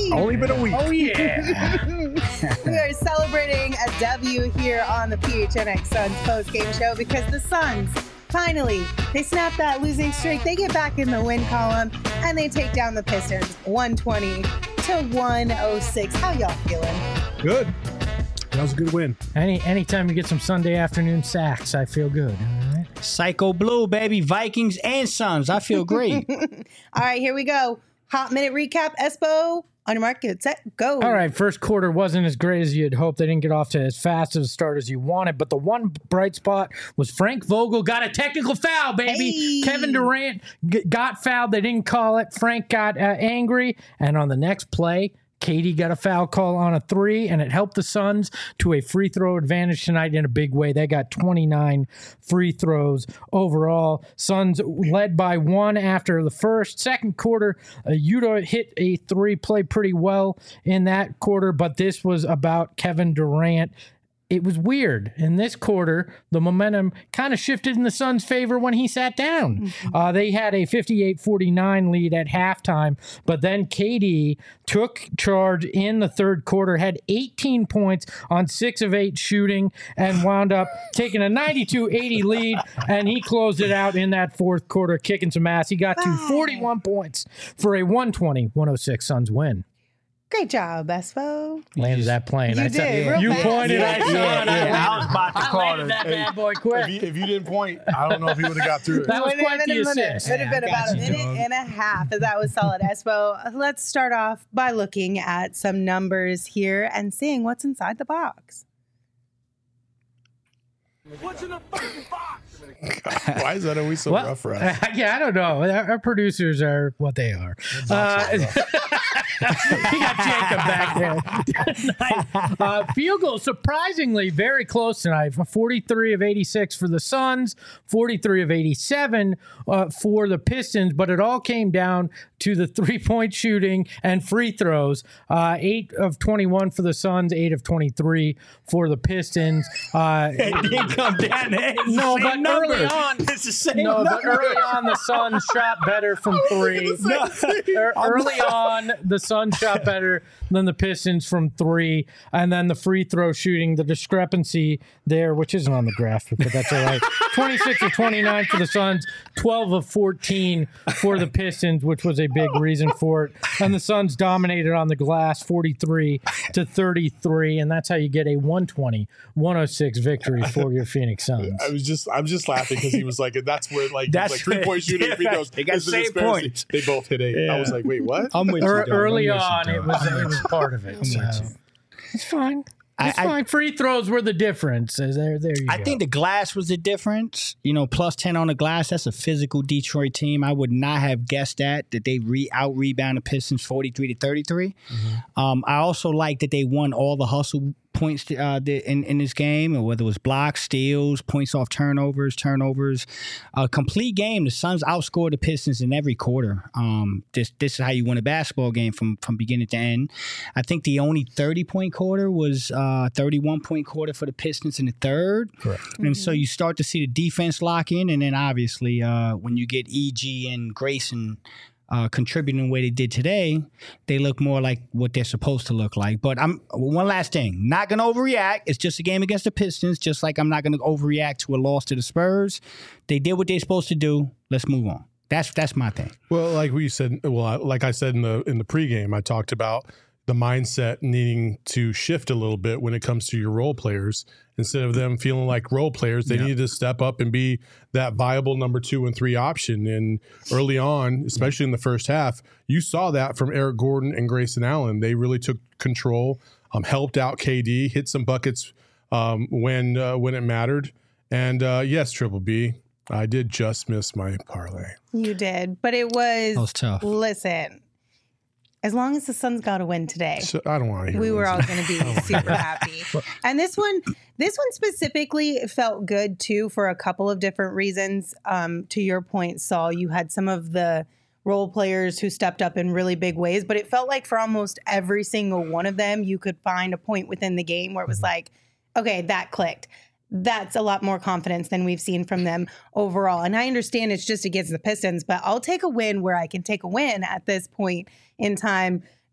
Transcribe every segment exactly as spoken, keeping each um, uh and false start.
week. Only been a week. Oh, yeah. We are celebrating a W here on the P H N X Suns post-game show because the Suns, finally, they snap that losing streak. They get back in the win column, and they take down the Pistons one twenty to one oh six. How y'all feeling? Good. That was a good win. Any Anytime you get some Sunday afternoon sacks, I feel good. All right. Psycho Blue, baby. Vikings and Suns. I feel great. All right, here we go. Hot minute recap. Espo, on your mark, get set, go. All right, first quarter wasn't as great as you'd hoped. They didn't get off to as fast as a start as you wanted, but the one bright spot was Frank Vogel got a technical foul, baby. Hey. Kevin Durant g- got fouled. They didn't call it. Frank got uh, angry, and on the next play, Katie got a foul call on a three, and it helped the Suns to a free throw advantage tonight in a big way. They got twenty-nine free throws overall. Suns led by one after the first. Second quarter, uh, Yuta hit a three, played pretty well in that quarter, but this was about Kevin Durant. It was weird. In this quarter, the momentum kind of shifted in the Suns' favor when he sat down. Mm-hmm. Uh, they had a fifty-eight forty-nine lead at halftime, but then K D took charge in the third quarter, had eighteen points on six of eight shooting, and wound up taking a ninety-two eighty lead, and he closed it out in that fourth quarter, kicking some ass. He got to forty-one points for a one twenty one oh six Suns win. Great job, Espo. Landed that plane. You I did, said, real you fast. pointed, I saw Yeah, it. yeah, I was about to I call landed it. that Hey, bad boy quick. If you, if you didn't point, I don't know if he would have got through it. That was Would have quite been the a minute. assist. Would have been Yeah, I about a got you, minute dog. and a half. That was solid, Espo. Let's start off by looking at some numbers here and seeing what's inside the box. What's in the fucking box? Why is that always so Well, rough for us? yeah, I don't know. Our, our producers are what they are. Uh, we got Jacob back there. uh, field goal, surprisingly, very close tonight. forty-three of eighty-six for the Suns, forty-three of eighty-seven uh, for the Pistons, but it all came down to the three-point shooting and free throws. Uh, eight of twenty-one for the Suns, eight of twenty-three for the Pistons. Uh, It didn't come down there. It's the No, same but number. early on- it's the same No, number. but early on, the Suns shot better from three. No. Er- Early on, the Suns shot better than the Pistons from three. And then the free throw shooting, the discrepancy there, which isn't on the graphic, but that's all right. twenty-six of twenty-nine for the Suns, twelve of fourteen for the Pistons, which was a big reason for it. And the Suns dominated on the glass, forty-three to thirty-three. And that's how you get a one twenty one oh six victory for your Phoenix Suns. I was just, I'm just laughing because he was like, that's where like, That's like three point shooting, free throws. They got This is same disparity. points. They both hit eight. Yeah. I was like, wait, what? I'm with you, Er- dog. early I'm with you, on, it dog. was it was part of it. So. It's fine. It's I- I- fine. Free throws were the difference. There, there you I go. think the glass was the difference. You know, plus ten on the glass. That's a physical Detroit team. I would not have guessed that, that they re out rebound the Pistons forty-three to thirty-three. Mm-hmm. Um, I also like that they won all the hustle points uh, in, in this game, or whether it was blocks, steals, points off turnovers, turnovers. A complete game. The Suns outscored the Pistons in every quarter. Um, this this is how you win a basketball game from, from beginning to end. I think the only thirty-point quarter was uh, thirty-one-point quarter for the Pistons in the third. Correct. And Mm-hmm. so you start to see the defense lock in, and then obviously uh, when you get E G and Grayson uh, contributing the way they did today, they look more like what they're supposed to look like. But I'm one last thing, not going to overreact. It's just a game against the Pistons, just like I'm not going to overreact to a loss to the Spurs. They did what they're supposed to do. Let's move on. That's that's my thing. Well, like we said, well, I- like I said in the in the pregame, I talked about the mindset needing to shift a little bit when it comes to your role players. Instead of them feeling like role players, they Yeah. needed to step up and be that viable number two and three option. And early on, especially in the first half, you saw that from Eric Gordon and Grayson Allen. They really took control, um, helped out K D, hit some buckets um, when uh, when it mattered. And uh, yes, Triple B, I did just miss my parlay. You did, but it was, That was tough. Listen, as long as the Suns got a win today, So I don't want to hear we were all Lindsay. going to be super happy. And this one, this one specifically felt good too for a couple of different reasons. Um, to your point, Saul, you had some of the role players who stepped up in really big ways, but it felt like for almost every single one of them, you could find a point within the game where it was like, okay, that clicked. That's a lot more confidence than we've seen from them overall. And I understand it's just against the Pistons, but I'll take a win where I can take a win at this point in time.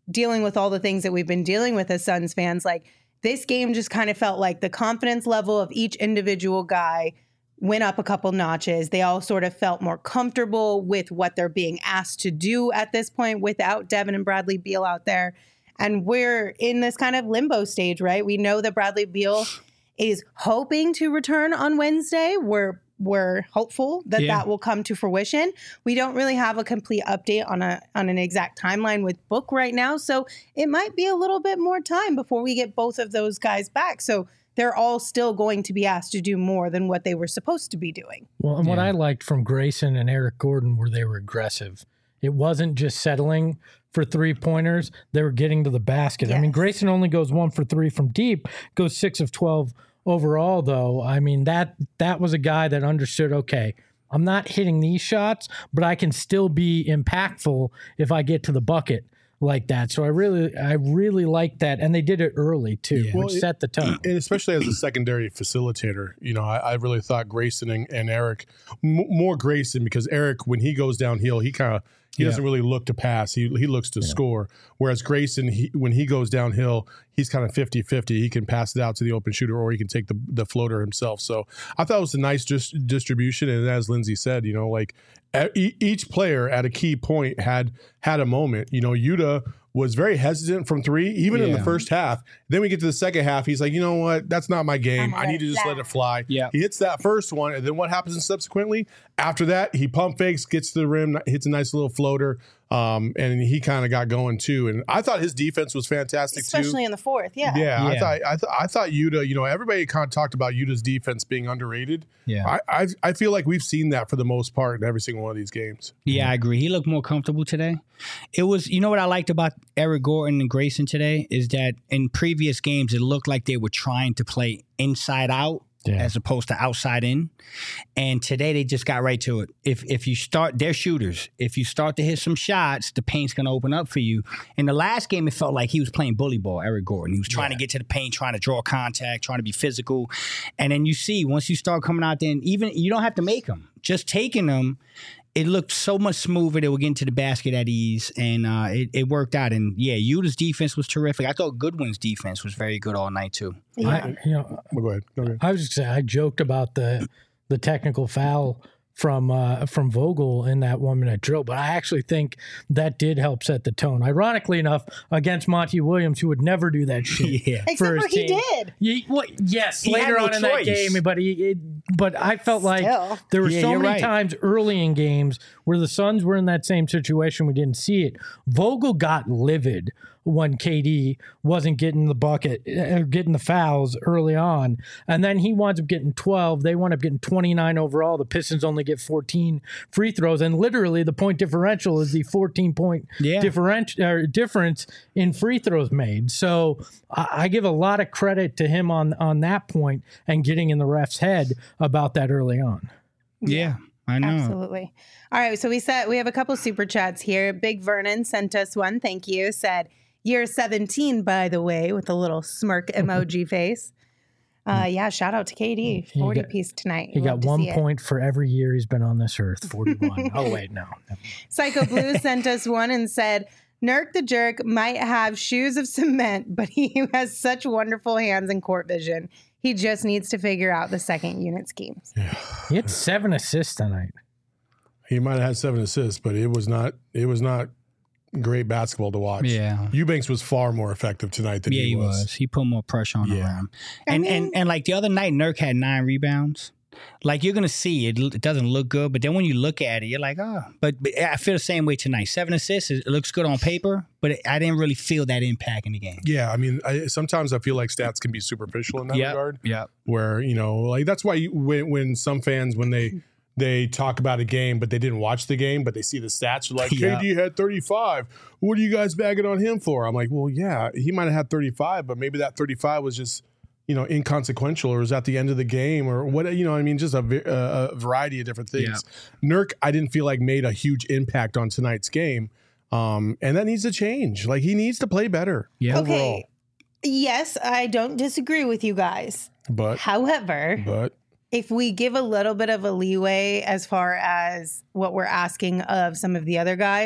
dealing with all the things that we've been dealing with as Suns fans, like this game just kind of felt like the confidence level of each individual guy went up a couple notches. They all sort of felt more comfortable with what they're being asked to do at this point without Devin and Bradley Beal out there. And we're in this kind of limbo stage, right? We know that Bradley Beal is hoping to return on Wednesday. We're we're hopeful that Yeah. that will come to fruition. We don't really have a complete update on a on an exact timeline with Book right now, so it might be a little bit more time before we get both of those guys back. So they're all still going to be asked to do more than what they were supposed to be doing. Well, and what Yeah. I liked from Grayson and Eric Gordon were they were aggressive. It wasn't just settling for three pointers. They were getting to the basket. I mean, Yes. Grayson only goes one for three from deep, goes six of twelve overall, though. I mean, that that was a guy that understood, okay, I'm not hitting these shots, but I can still be impactful if I get to the bucket like that. So I really, I really like that. And they did it early too, Yeah. which Well, it- set the tone. And especially as a secondary facilitator, you know, I, I really thought Grayson and, and Eric, m- more Grayson, because Eric, when he goes downhill, he kind of he Yeah. doesn't really look to pass. He he looks to score. Whereas Grayson, he, when he goes downhill, he's kind of fifty-fifty. He can pass it out to the open shooter or he can take the, the floater himself. So I thought it was a nice dis- distribution. And as Lindsay said, you know, like e- each player at a key point had had a moment. You know, Yuta was very hesitant from three, even in the Yeah. first half. Then we get to the second half. He's like, you know what? That's not my game. I'm I need to gonna just fly. let it fly. Yeah. He hits that first one. And then what happens in subsequently? After that, he pump fakes, gets to the rim, hits a nice little floater. Um, and he kind of got going too. And I thought his defense was fantastic Especially too. in the fourth, yeah. Yeah, I Yeah. thought I, th- I thought Yuta, you know, everybody kind of talked about Yuta's defense being underrated. Yeah. I, I I feel like we've seen that for the most part in every single one of these games. Yeah, I agree. He looked more comfortable today. It was, you know what I liked about Eric Gordon and Grayson today is that in previous games, it looked like they were trying to play inside out Yeah. as opposed to outside in. And today they just got right to it. If if you start, they're shooters. If you start to hit some shots, the paint's going to open up for you. In the last game, it felt like he was playing bully ball, Eric Gordon. He was trying to get to the paint, trying to draw contact, trying to be physical. And then you see, once you start coming out there, and even you don't have to make them. Just taking them, it looked so much smoother. They were getting to the basket at ease, and uh, it, it worked out. And yeah, Utah's defense was terrific. I thought Goodwin's defense was very good all night too. Yeah. I, you know, Well, go ahead. Go ahead. I was just saying, I joked about the the technical foul from uh, from Vogel in that one minute drill, but I actually think that did help set the tone. Ironically enough, against Monty Williams, who would never do that shit. Yeah. Except for for his he team. did. Ye- what- yes, He later had no on in that choice. game, but he, it, but I felt like Still. there were Yeah, so you're many right. times early in games where the Suns were in that same situation. We didn't see it. Vogel got livid when K D wasn't getting the bucket, uh, getting the fouls early on, and then he winds up getting twelve. They wind up getting twenty-nine overall. The Pistons only get fourteen free throws, and literally the point differential is the fourteen point Yeah. differential or difference in free throws made. So I, I give a lot of credit to him on on that point and getting in the ref's head about that early on. Yeah, I know. Absolutely. All right. So we said we have a couple super chats here. Big Vernon sent us one. Thank you. Said year seventeen, by the way, with a little smirk emoji face. Uh, yeah. Shout out to K D. He forty got- piece tonight. He Love got to one see it. point for every year he's been on this earth. forty-one. Oh wait, no. Psycho Blue sent us one and said, Nurk the Jerk might have shoes of cement, but he has such wonderful hands and court vision. He just needs to figure out the second unit schemes. He had seven assists tonight. He might have had seven assists, but it was not it was not great basketball to watch. Yeah. Eubanks was far more effective tonight than Yeah, he, he was. was. He put more pressure on Yeah. him. I And mean- and and like the other night, Nurk had nine rebounds. Like you're gonna see it, it doesn't look good, but then when you look at it, you're like, oh. But, but I feel the same way tonight. Seven assists, it looks good on paper, but it, I didn't really feel that impact in the game. Yeah, I mean, I, sometimes I feel like stats can be superficial in that regard. Yeah. Where you know, like that's why you, when when some fans when they they talk about a game but they didn't watch the game but they see the stats, they're like Yeah. K D had thirty-five. What are you guys bagging on him for? I'm like, well, yeah, he might have had thirty-five, but maybe that thirty-five was just you know inconsequential or was at the end of the game or what you know. I mean, just a, v- a, a variety of different things. Nurk, I didn't feel like made a huge impact on tonight's game, um, and that needs to change. Like he needs to play better. Yeah. overall. Okay. Yes, I don't disagree with you guys. But However, but if we give a little bit of a leeway as far as what we're asking of some of the other guys,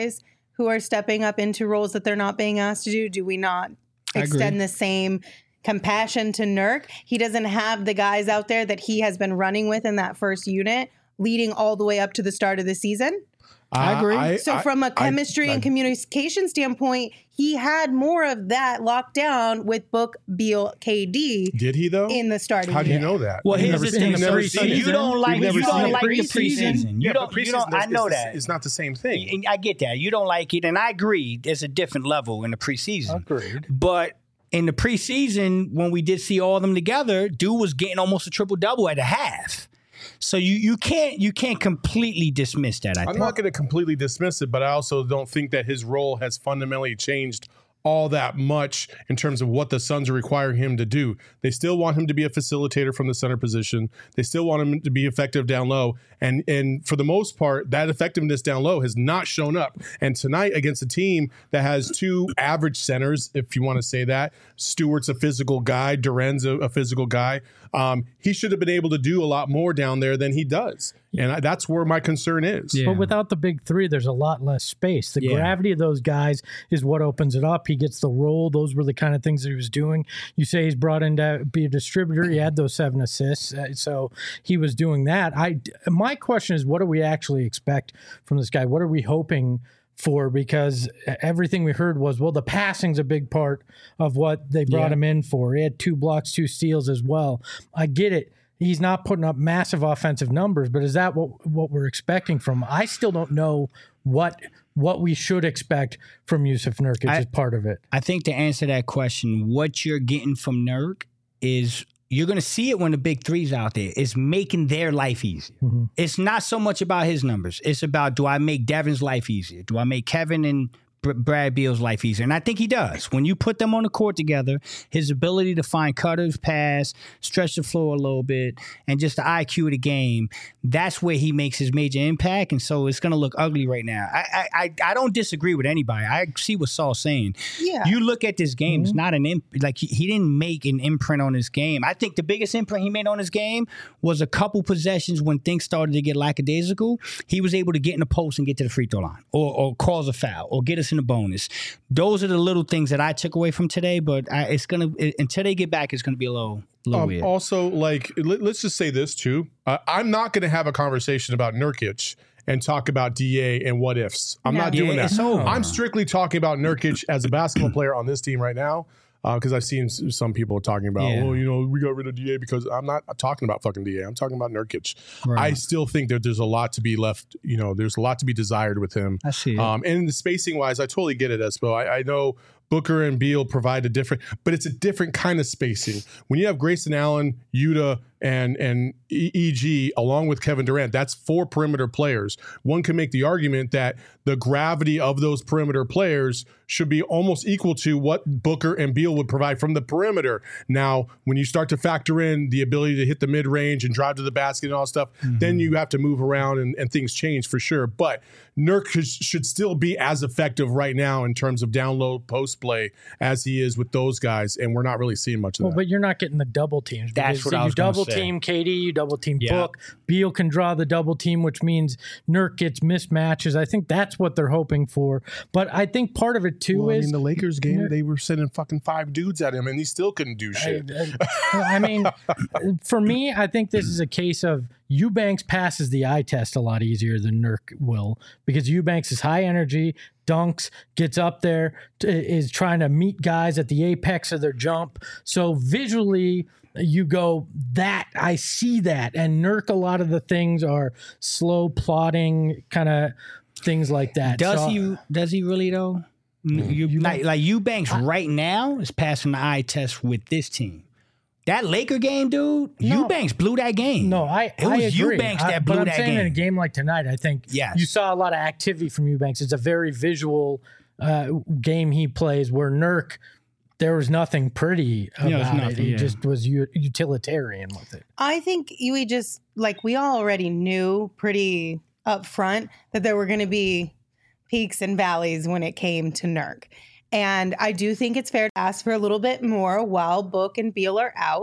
who are stepping up into roles that they're not being asked to do? Do we not extend the same compassion to Nurk? He doesn't have the guys out there that he has been running with in that first unit, leading all the way up to the start of the season. I agree. I, So I, from a chemistry I, and communication standpoint, he had more of that locked down with Book, Beal, K D did he though? in the starting How do you unit. know that? Well, We've here's never the seen thing. the So, preseason. so you don't like We've never you don't seen the like the preseason. preseason. You yeah, don't. but You don't. preseason I is- know is- that. It's not the same thing. And I get that. You don't like it, and I agree. There's a different level in the preseason. Agreed. But in the preseason, when we did see all of them together, dude was getting almost a triple double at a half. So you you can't you can't completely dismiss that. I I'm think. not going to completely dismiss it, but I also don't think that his role has fundamentally changed all that much in terms of what the Suns are requiring him to do. They still want him to be a facilitator from the center position. They still want him to be effective down low. And and for the most part, that effectiveness down low has not shown up. And tonight against a team that has two average centers, if you want to say that, Stewart's a physical guy, Duren's a, a physical guy. Um, he should have been able to do a lot more down there than he does. And I, that's where my concern is. Yeah. But without the big three, there's a lot less space. The Yeah. gravity of those guys is what opens it up. He gets the role. Those were the kind of things that he was doing. You say he's brought in to be a distributor. He had those seven assists. Uh, so he was doing that. I, my question is, what do we actually expect from this guy? What are we hoping for? Because everything we heard was, well, the passing's a big part of what they brought Yeah. him in for. He had two blocks, two steals as well. I get it. He's not putting up massive offensive numbers, but is that what what we're expecting from him? I still don't know what what we should expect from Yusuf Nurkic I- as part of it. I think to answer that question, what you're getting from Nurk is you're going to see it when the big three's out there. It's making their life easier. Mm-hmm. It's not so much about his numbers. It's about, do I make Devin's life easier? Do I make Kevin and Br- Brad Beal's life easier? And I think he does. When you put them on the court together, his ability to find cutters, pass, stretch the floor a little bit, and just the I Q of the game, that's where he makes his major impact. And so it's going to look ugly right now. I, I I I don't disagree with anybody. I see what Saul's saying. Yeah. You look at this game, it's not an imp- like he, he didn't make an imprint on his game. I think the biggest imprint he made on his game was a couple possessions when things started to get lackadaisical. He was able to get in the post and get to the free throw line, or or cause a foul, or get us in the bonus. Those are the little things that I took away from today. But I, it's gonna it, until they get back, it's gonna be a little, little Um, weird. also, like, let, let's just say this too. Uh, I'm not going to have a conversation about Nurkic and talk about D A and what ifs. I'm No. not doing Yeah, that. it's over. I'm strictly talking about Nurkic as a basketball player on this team right now. Because I've seen s- some people talking about, Yeah. well, you know, we got rid of D A because I'm not talking about fucking D A. I'm talking about Nurkic. Right. I still think that there's a lot to be left. You know, there's a lot to be desired with him. I see it. Um, and the spacing wise, I totally get it, Espo. I, I know Booker and Beal provide a different, but it's a different kind of spacing. When you have Grayson Allen, Yuta, and and E G along with Kevin Durant, that's four perimeter players. One can make the argument that the gravity of those perimeter players should be almost equal to what Booker and Beal would provide from the perimeter. Now, when you start to factor in the ability to hit the mid range and drive to the basket and all that stuff, Mm-hmm. then you have to move around and, and things change for sure. But Nurk should still be as effective right now in terms of down low post play as he is with those guys, and we're not really seeing much of Well, that. but you're not getting the double teams. That's because what I you was gonna double say. team K D, you double team Yeah. Book. Beal can draw the double team, which means Nurk gets mismatches. I think that's what they're hoping for. But I think part of it too Well, I is mean, the Lakers game, Nurk- they were sending fucking five dudes at him, and he still couldn't do shit. I, I mean, for me, I think this is a case of Eubanks passes the eye test a lot easier than Nurk will, because Eubanks is high energy, dunks, gets up there, t- is trying to meet guys at the apex of their jump. So visually, you go, that I see that. And Nurk, a lot of the things are slow plotting, kind of things like that. Does So- he? Does he really though? You, like, like Eubanks right now is passing the eye test with this team. That Laker game, dude. No. Eubanks blew that game. No, I It I was agree. Eubanks I- that blew but I'm that saying game. in a game like tonight, I think Yes. you saw a lot of activity from Eubanks. It's a very visual uh, game he plays. Where Nurk, there was nothing pretty about there's it. nothing, He yeah. just was u- utilitarian with it. I think we just, like, we all already knew pretty up front that there were going to be peaks and valleys when it came to Nurk. And I do think it's fair to ask for a little bit more while Book and Beal are out.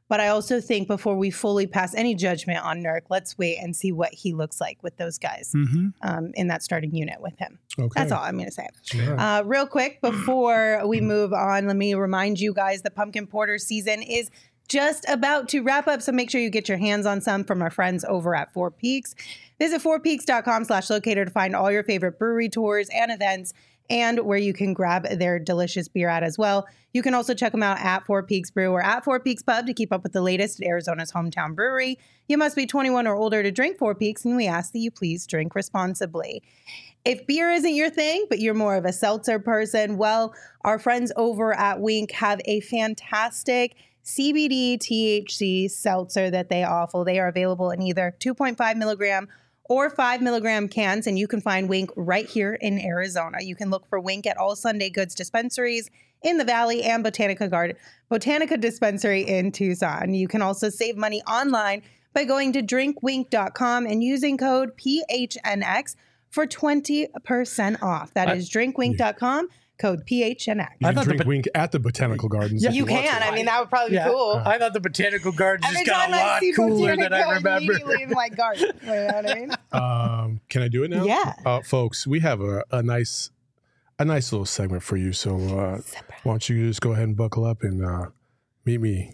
But I also think before we fully pass any judgment on Nurk, let's wait and see what he looks like with those guys Mm-hmm. um, in that starting unit with him. Okay. That's all I'm going to say. Sure. Uh, real quick, before we move on, let me remind you guys the pumpkin porter season is just about to wrap up. So make sure you get your hands on some from our friends over at Four Peaks. Visit fourpeaks.com slash locator to find all your favorite brewery tours and events and where you can grab their delicious beer at as well. You can also check them out at Four Peaks Brew or at Four Peaks Pub to keep up with the latest at Arizona's hometown brewery. You must be twenty-one or older to drink Four Peaks, and we ask that you please drink responsibly. If beer isn't your thing, but you're more of a seltzer person, well, our friends over at Wink have a fantastic C B D T H C seltzer that they offer. They are available in either two point five milligram or five milligram cans, and you can find Wink right here in Arizona. You can look for Wink at all Sunday Goods dispensaries in the Valley and Botanica Garden, Botanica Dispensary in Tucson. You can also save money online by going to drink wink dot com and using code P H N X for twenty percent off. That is drink wink dot com. Code P H N X. You I can thought the drink bot- Wink at the Botanical Gardens. Yeah, if You want can. to. I mean, that would probably Yeah. be cool. I thought the botanical gardens Every just got time a I lot see cooler than I Botanica, remember. immediately in my garden. You know what I mean? Um, can I do it now? Yeah. Uh, folks, we have a, a nice a nice little segment for you. So uh, why don't you just go ahead and buckle up and uh, meet me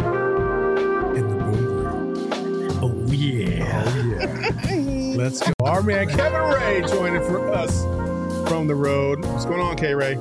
in the boom room. Oh, yeah. Oh, yeah. Let's go. Our man Kevin Ray joining for us from the road. What's going on, K-Ray?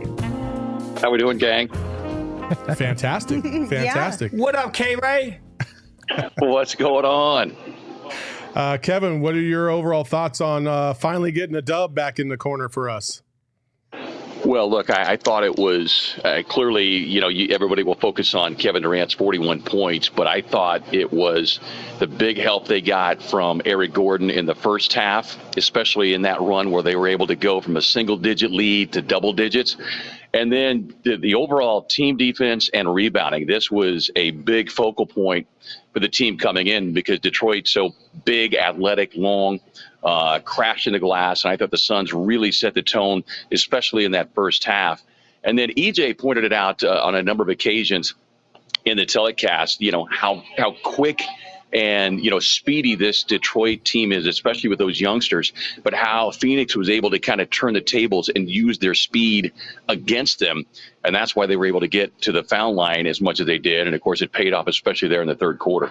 How we doing, gang? Fantastic. Fantastic. What up, K-Ray? What's going on? Uh, Kevin, what are your overall thoughts on uh, finally getting a dub back in the corner for us? Well, look, I, I thought it was uh, clearly, you know, you, everybody will focus on Kevin Durant's forty-one points, but I thought it was the big help they got from Eric Gordon in the first half, especially in that run where they were able to go from a single-digit lead to double digits. And then the, the overall team defense and rebounding. This was a big focal point for the team coming in because Detroit's so big, athletic, long, uh, crashed in the glass. And I thought the Suns really set the tone, especially in that first half. And then E J pointed it out uh, on a number of occasions in the telecast, you know, how, how quick and, you know, speedy this Detroit team is, especially with those youngsters, but how Phoenix was able to kind of turn the tables and use their speed against them. And that's why they were able to get to the foul line as much as they did. And, of course, it paid off, especially there in the third quarter.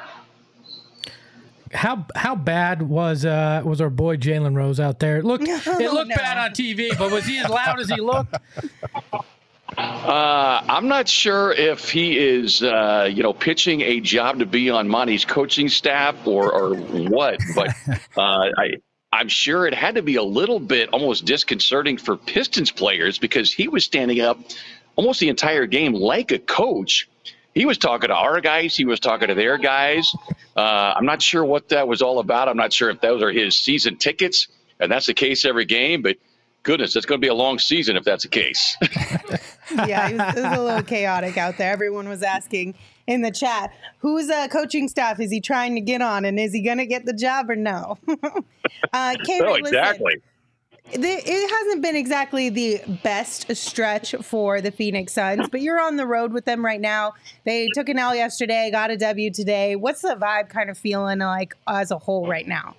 How how bad was uh was our boy Jalen Rose out there? It looked it looked no. bad on T V, but was he as loud as he looked? Uh, I'm not sure if he is, uh, you know, pitching a job to be on Monty's coaching staff or, or what, but uh, I, I'm sure it had to be a little bit almost disconcerting for Pistons players because he was standing up almost the entire game like a coach. He was talking to our guys. He was talking to their guys. Uh, I'm not sure what that was all about. I'm not sure if those are his season tickets, and that's the case every game, but goodness, it's going to be a long season if that's the case. Yeah, it was, it was a little chaotic out there. Everyone was asking in the chat, whose uh, coaching staff is he trying to get on, and is he going to get the job or no? uh, K-Ray, No, listen, exactly. the, it hasn't been exactly the best stretch for the Phoenix Suns, but you're on the road with them right now. They took an L yesterday, got a W today. What's the vibe kind of feeling like as a whole right now?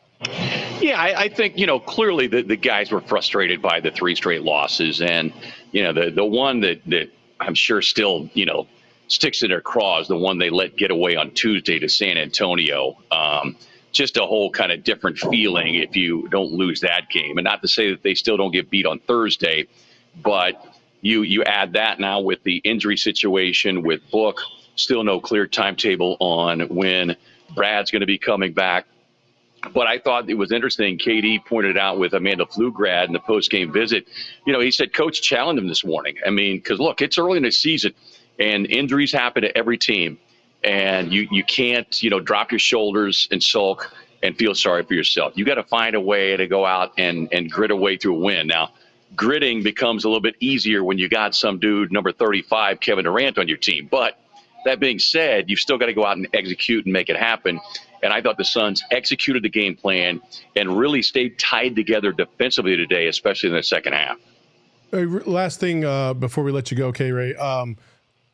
Yeah, I, I think, you know, clearly the, the guys were frustrated by the three straight losses. And, you know, the, the one that, that I'm sure still, you know, sticks in their craws, the one they let get away on Tuesday to San Antonio. Um, just a whole kind of different feeling if you don't lose that game. And not to say that they still don't get beat on Thursday, but you, you add that now with the injury situation with Book, still no clear timetable on when Brad's going to be coming back. But I thought it was interesting. K D pointed out with Amanda Pflugrad in the post-game visit. You know, he said, Coach challenged him this morning. I mean, because, look, it's early in the season, and injuries happen to every team. And you, you can't, you know, drop your shoulders and sulk and feel sorry for yourself. You got to find a way to go out and, and grit a way through a win. Now, gritting becomes a little bit easier when you got some dude, number thirty-five, Kevin Durant, on your team. But that being said, you've still got to go out and execute and make it happen. And I thought the Suns executed the game plan and really stayed tied together defensively today, especially in the second half. Hey, last thing uh, before we let you go, K-Ray. Um,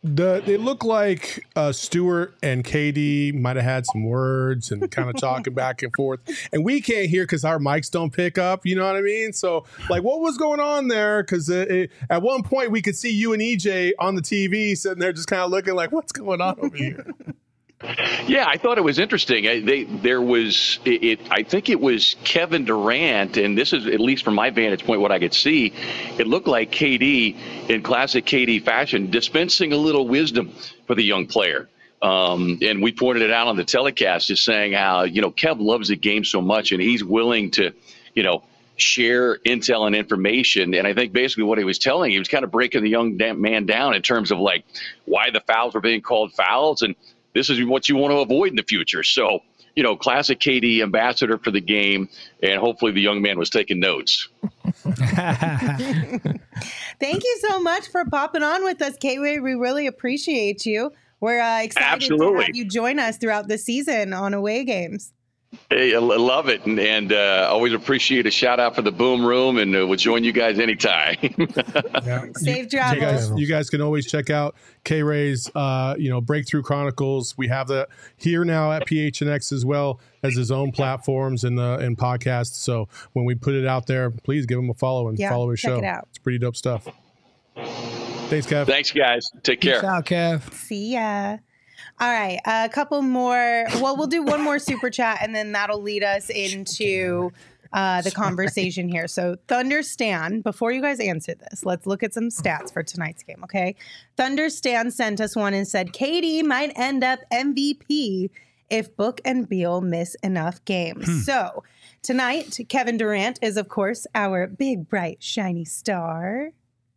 The it looked like uh, Stewart and K D might have had some words and kind of talking back and forth, and we can't hear because our mics don't pick up. You know what I mean? So, like, what was going on there? Because at one point we could see you and E J on the T V sitting there, just kind of looking like, "What's going on over here?" Yeah, I thought it was interesting. I, they there was it, it. I think it was Kevin Durant, and this is at least from my vantage point what I could see. It looked like K D in classic K D fashion, dispensing a little wisdom for the young player. Um, and we pointed it out on the telecast, just saying how you know Kev loves the game so much, and he's willing to, you know, share intel and information. And I think basically what he was telling, he was kind of breaking the young man down in terms of like why the fouls were being called fouls and. This is what you want to avoid in the future. So, you know, classic K D ambassador for the game, and hopefully the young man was taking notes. Thank you so much for popping on with us, K-Way. We really appreciate you. We're uh, excited Absolutely. to have you join us throughout the season on away games. Hey, I love it, and, and uh, always appreciate a shout out for the Boom Room, and uh, we'll join you guys anytime. Yeah. Safe you, travels. You guys, you guys can always check out K-Ray's, uh, you know, Breakthrough Chronicles. We have that here now at P H N X as well as his own platforms and uh, and podcasts. So when we put it out there, please give him a follow and Yeah, follow his check show. it out. It's pretty dope stuff. Thanks, Kev. Thanks, guys. Take care. Peace out, Kev. See ya. All right, a couple more. Well, we'll do one more super chat, and then that'll lead us into uh, the conversation here. So, Thunder Stan, before you guys answer this, let's look at some stats for tonight's game, okay? Thunder Stan sent us one and said, K D might end up M V P if Book and Beal miss enough games. Hmm. So, tonight, Kevin Durant is, of course, our big, bright, shiny star.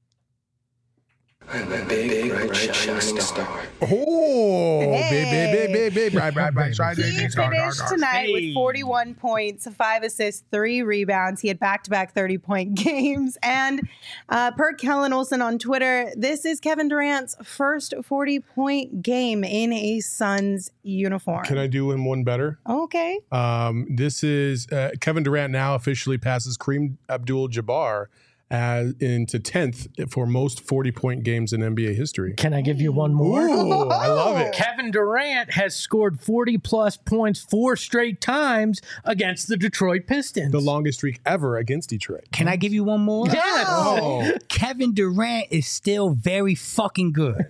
I'm a big, big bright, bright, shining star. Oh, Hey. big, big, big, big, bright, bright, bright, shining He star. finished tonight Hey. with forty-one points, five assists, three rebounds. He had back-to-back thirty-point games. And uh, per Kellen Olson on Twitter, this is Kevin Durant's first forty-point game in a Suns uniform. Can I do him one better? Okay. Um, this is uh, Kevin Durant now officially passes Kareem Abdul-Jabbar as into tenth for most forty-point games in N B A history. Can I give you one more? Ooh, I love it. Kevin Durant has scored forty plus points four straight times against the Detroit Pistons. The longest streak ever against Detroit. Can I give you one more? Yes. Oh, Kevin Durant is still very fucking good.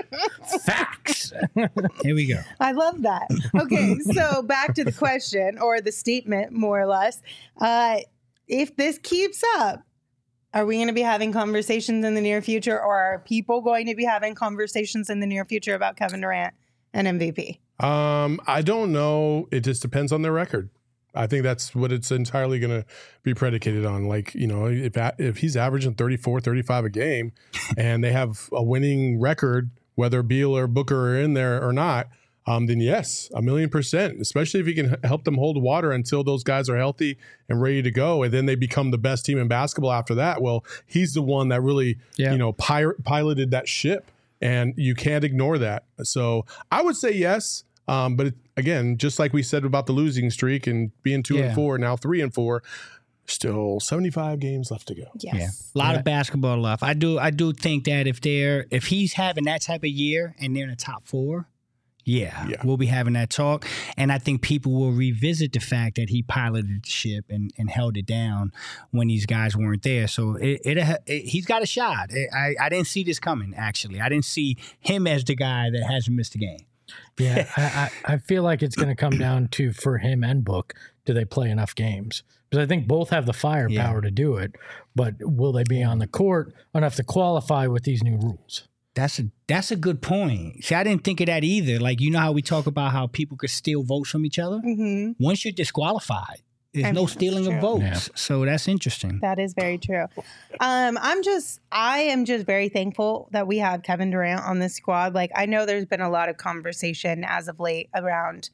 Facts. Here we go. I love that. Okay, so back to the question or the statement, more or less. Uh, if this keeps up, are we going to be having conversations in the near future, or are people going to be having conversations in the near future about Kevin Durant and M V P? Um, I don't know. It just depends on their record. I think that's what it's entirely going to be predicated on. Like, you know, if if he's averaging thirty-four, thirty-five a game and they have a winning record, whether Beal or Booker are in there or not, um, then yes, a million percent, especially if he can help them hold water until those guys are healthy and ready to go. And then they become the best team in basketball after that. Well, he's the one that really, Yeah. you know, pir- piloted that ship, and you can't ignore that. So I would say yes. Um, but it, again, just like we said about the losing streak and being two Yeah. and four, now three and four, still seventy-five games left to go. Yes. Yeah, a lot Yeah. of basketball left. I do, I do think that if they're, if he's having that type of year and they're in the top four, yeah, Yeah. we'll be having that talk. And I think people will revisit the fact that he piloted the ship and, and held it down when these guys weren't there. So it, it, it he's got a shot. I, I didn't see this coming. Actually, I didn't see him as the guy that hasn't missed a game. Yeah, I, I, I feel like it's going to come down to, for him and Book, do they play enough games? Because I think both have the firepower Yeah. to do it, but will they be on the court enough to qualify with these new rules? That's a that's a good point. See, I didn't think of that either. Like, you know how we talk about how people could steal votes from each other? hmm Once you're disqualified, there's I no mean, that's stealing true. of votes. Yeah. So that's interesting. That is very true. Um, I'm just, I am just very thankful that we have Kevin Durant on this squad. Like, I know there's been a lot of conversation as of late around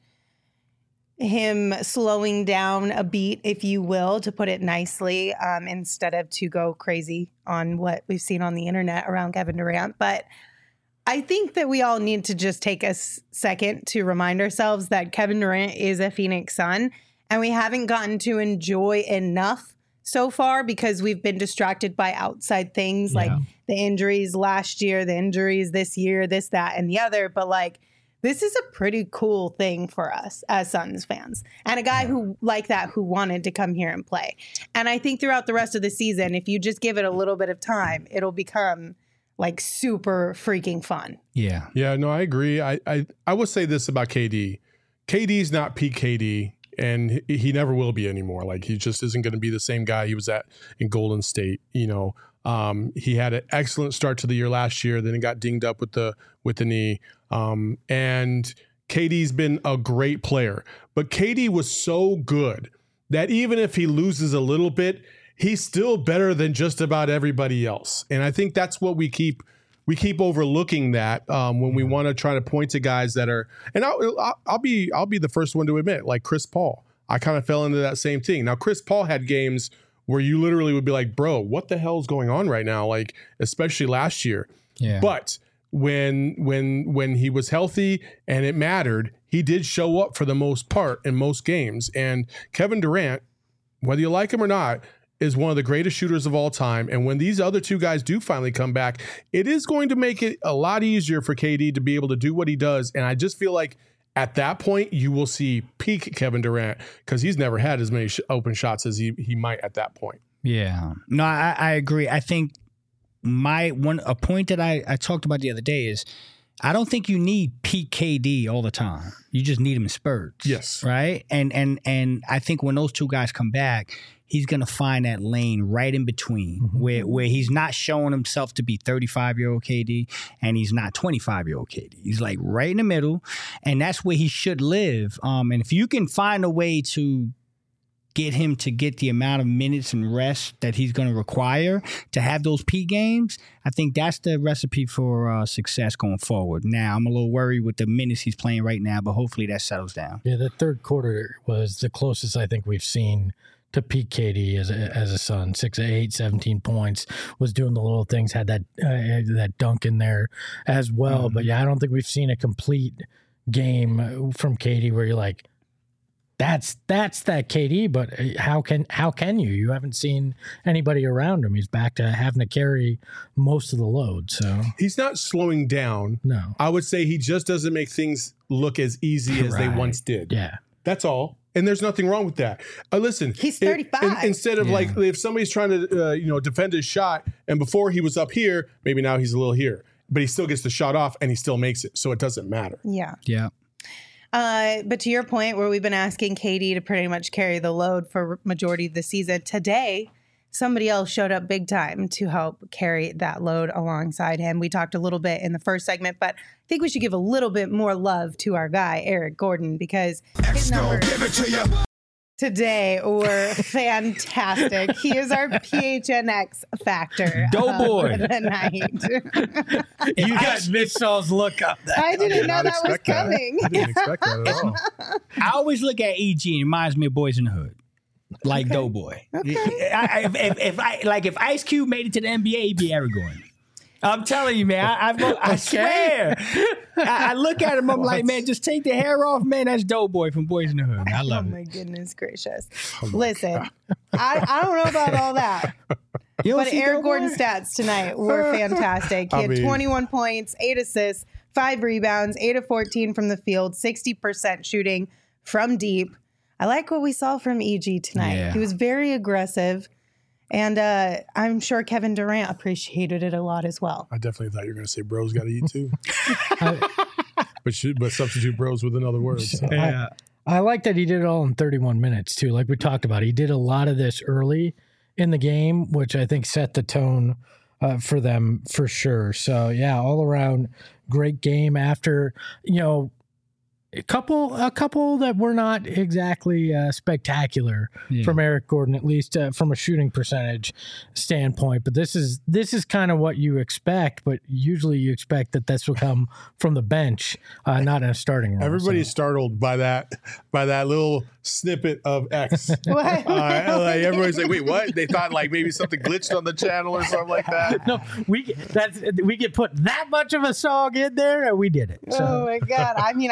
him slowing down a beat, if you will, to put it nicely, um, instead of to go crazy on what we've seen on the internet around Kevin Durant. But I think that we all need to just take a s- second to remind ourselves that Kevin Durant is a Phoenix Sun, and we haven't gotten to enjoy enough so far because we've been distracted by outside things like Yeah. the injuries last year, the injuries this year, this, that, and the other. But like, this is a pretty cool thing for us as Suns fans and a guy who like that, who wanted to come here and play. And I think throughout the rest of the season, if you just give it a little bit of time, it'll become like super freaking fun. Yeah. Yeah, no, I agree. I, I, I will say this about K D. K D's not peak K D, and he, he never will be anymore. Like, he just isn't going to be the same guy he was at in Golden State. You know, um, he had an excellent start to the year last year. Then he got dinged up with the with the knee. Um, and K D's been a great player, but K D was so good that even if he loses a little bit, he's still better than just about everybody else. And I think that's what we keep we keep overlooking that um, when we want to try to point to guys that are. And I'll, I'll, I'll be I'll be the first one to admit, like Chris Paul. I kind of fell into that same thing. Now, Chris Paul had games where you literally would be like, bro, what the hell is going on right now? Like, especially last year. Yeah. But when when when he was healthy and it mattered, he did show up for the most part in most games. And Kevin Durant, whether you like him or not, is one of the greatest shooters of all time. And when these other two guys do finally come back, it is going to make it a lot easier for K D to be able to do what he does. And I just feel like at that point, you will see peak Kevin Durant, because he's never had as many sh- open shots as he, he might at that point. Yeah. No, I, I agree. I think my one a point that I, I talked about the other day is I don't think you need peak K D all the time. You just need him in spurts. Yes. Right? And and and I think when those two guys come back, he's going to find that lane right in between mm-hmm. where where he's not showing himself to be thirty-five-year-old K D and he's not twenty-five-year-old K D. He's like right in the middle, and that's where he should live. Um, and if you can find a way to get him to get the amount of minutes and rest that he's going to require to have those peak games, I think that's the recipe for uh, success going forward. Now, I'm a little worried with the minutes he's playing right now, but hopefully that settles down. Yeah, the third quarter was the closest I think we've seen to peak K D as a, as a Sun. six of eight, seventeen points, was doing the little things, had that uh, that dunk in there as well. Mm-hmm. But yeah, I don't think we've seen a complete game from K D where you're like, That's that's that K D, but how can how can you? You haven't seen anybody around him. He's back to having to carry most of the load. So he's not slowing down. No, I would say he just doesn't make things look as easy as right. they once did. Yeah, that's all. And there's nothing wrong with that. Uh, listen, he's thirty-five. It, in, instead of yeah. like if somebody's trying to uh, you know defend his shot, and before he was up here, maybe now he's a little here, but he still gets the shot off and he still makes it. So it doesn't matter. Yeah. Yeah. Uh, but to your point, where we've been asking K D to pretty much carry the load for majority of the season, today somebody else showed up big time to help carry that load alongside him. We talked a little bit in the first segment, but I think we should give a little bit more love to our guy, Eric Gordon, because his numbers today were fantastic. He is our P H N X factor. Doughboy. Of the night. You guys missed Saul's look up. That. I didn't I did know that was coming. That. I didn't expect that at all. I always look at E G and it reminds me of Boys in the Hood. Like okay. Doughboy. Okay. I, if, if, if I like if Ice Cube made it to the N B A, he'd be Eric Gordon. I'm telling you, man. I, I, I swear. I, I look at him. I'm like, man, just take the hair off, man. That's Doughboy from Boys in the Hood. I love oh it. Oh my goodness gracious! Oh my Listen, I, I don't know about all that, but Eric Gordon's stats tonight were fantastic. He I had mean, twenty-one points, eight assists, five rebounds, eight of fourteen from the field, sixty percent shooting from deep. I like what we saw from E G tonight. Yeah. He was very aggressive. And uh, I'm sure Kevin Durant appreciated it a lot as well. I definitely thought you were going to say bros got to eat too. but should, but substitute bros with another word. So. Yeah. I, I like that he did it all in thirty-one minutes too. Like we talked about, he did a lot of this early in the game, which I think set the tone uh, for them for sure. So yeah, all around great game after, you know, A couple, a couple that were not exactly uh, spectacular yeah. from Eric Gordon, at least uh, from a shooting percentage standpoint. But this is this is kind of what you expect. But usually you expect that this will come from the bench, uh, not in a starting role. Everybody's so. startled by that by that little snippet of X. What? Uh, like everybody's like, wait, what? They thought like maybe something glitched on the channel or something like that. No, we that's we could put that much of a song in there, and we did it. So. Oh my god! I mean, I didn't know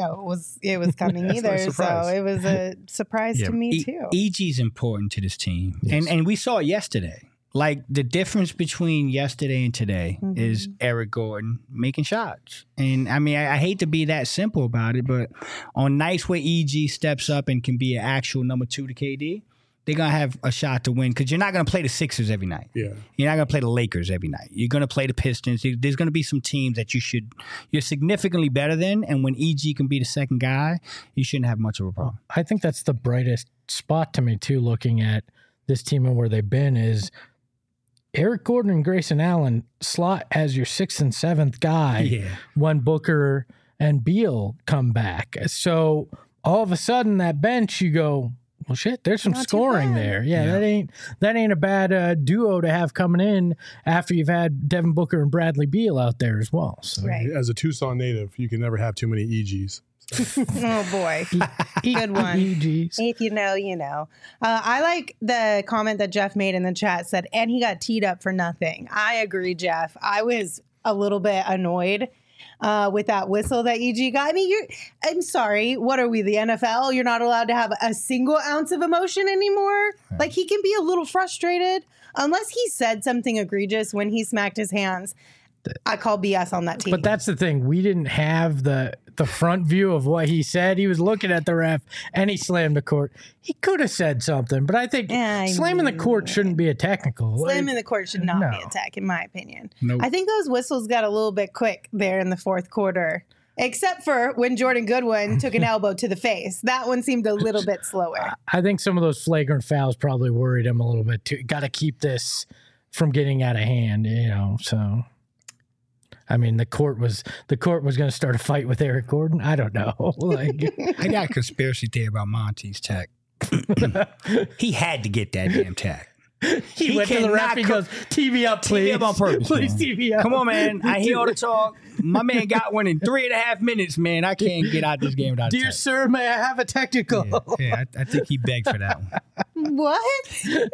know it was it was coming either. So it was a surprise Yeah. to me E- too. E G's important to this team, and and we saw it yesterday. Like the difference between yesterday and today Mhm. is Eric Gordon making shots. And I mean, I, I hate to be that simple about it, but on nights where E G steps up and can be an actual number two to K D, they're going to have a shot to win because you're not going to play the Sixers every night. Yeah. You're not going to play the Lakers every night. You're going to play the Pistons. There's going to be some teams that you should, you're significantly better than. And when E G can be the second guy, you shouldn't have much of a problem. I think that's the brightest spot to me too, looking at this team and where they've been, is Eric Gordon and Grayson Allen slot as your sixth and seventh guy Yeah. when Booker and Beal come back. So all of a sudden that bench, you go, well, shit, there's some Not too scoring bad. there. Yeah, Yeah. that ain't that ain't a bad uh, duo to have coming in after you've had Devin Booker and Bradley Beal out there as well. So Right. As a Tucson native, you can never have too many E Gs. Oh boy. Good one. E Gs. If you know, you know. Uh, I like the comment that Jeff made in the chat, said, and he got teed up for nothing. I agree, Jeff. I was a little bit annoyed uh, with that whistle that E G got. I mean, you're, I'm sorry. What are we, the N F L? You're not allowed to have a single ounce of emotion anymore? Right. Like, he can be a little frustrated. Unless he said something egregious when he smacked his hands, I call B S on that team. But that's the thing. We didn't have the the front view of what he said. He was looking at the ref and he slammed the court. He could have said something, but I think Yeah, I slamming the mean- court shouldn't be a technical. Slam in the court should not No. be a tech, in my opinion. Nope. I think those whistles got a little bit quick there in the fourth quarter, except for when Jordan Goodwin took an elbow to the face. That one seemed a little bit slower. I think some of those flagrant fouls probably worried him a little bit too. Got to keep this from getting out of hand, you know. So, I mean, the court was the court was going to start a fight with Eric Gordon. I don't know. Like, I got a conspiracy theory about Monty's tech. He had to get that damn tech. he, He went to the ref. cannot He co- goes, "T V up, please, T V up on purpose, please, man. T V up." Come on, man. I hear all the talk. My man got one in three and a half minutes, man. I can't get out this game without a Dear tech. sir, may I have a technical? Yeah, yeah I, I think he begged for that one. What?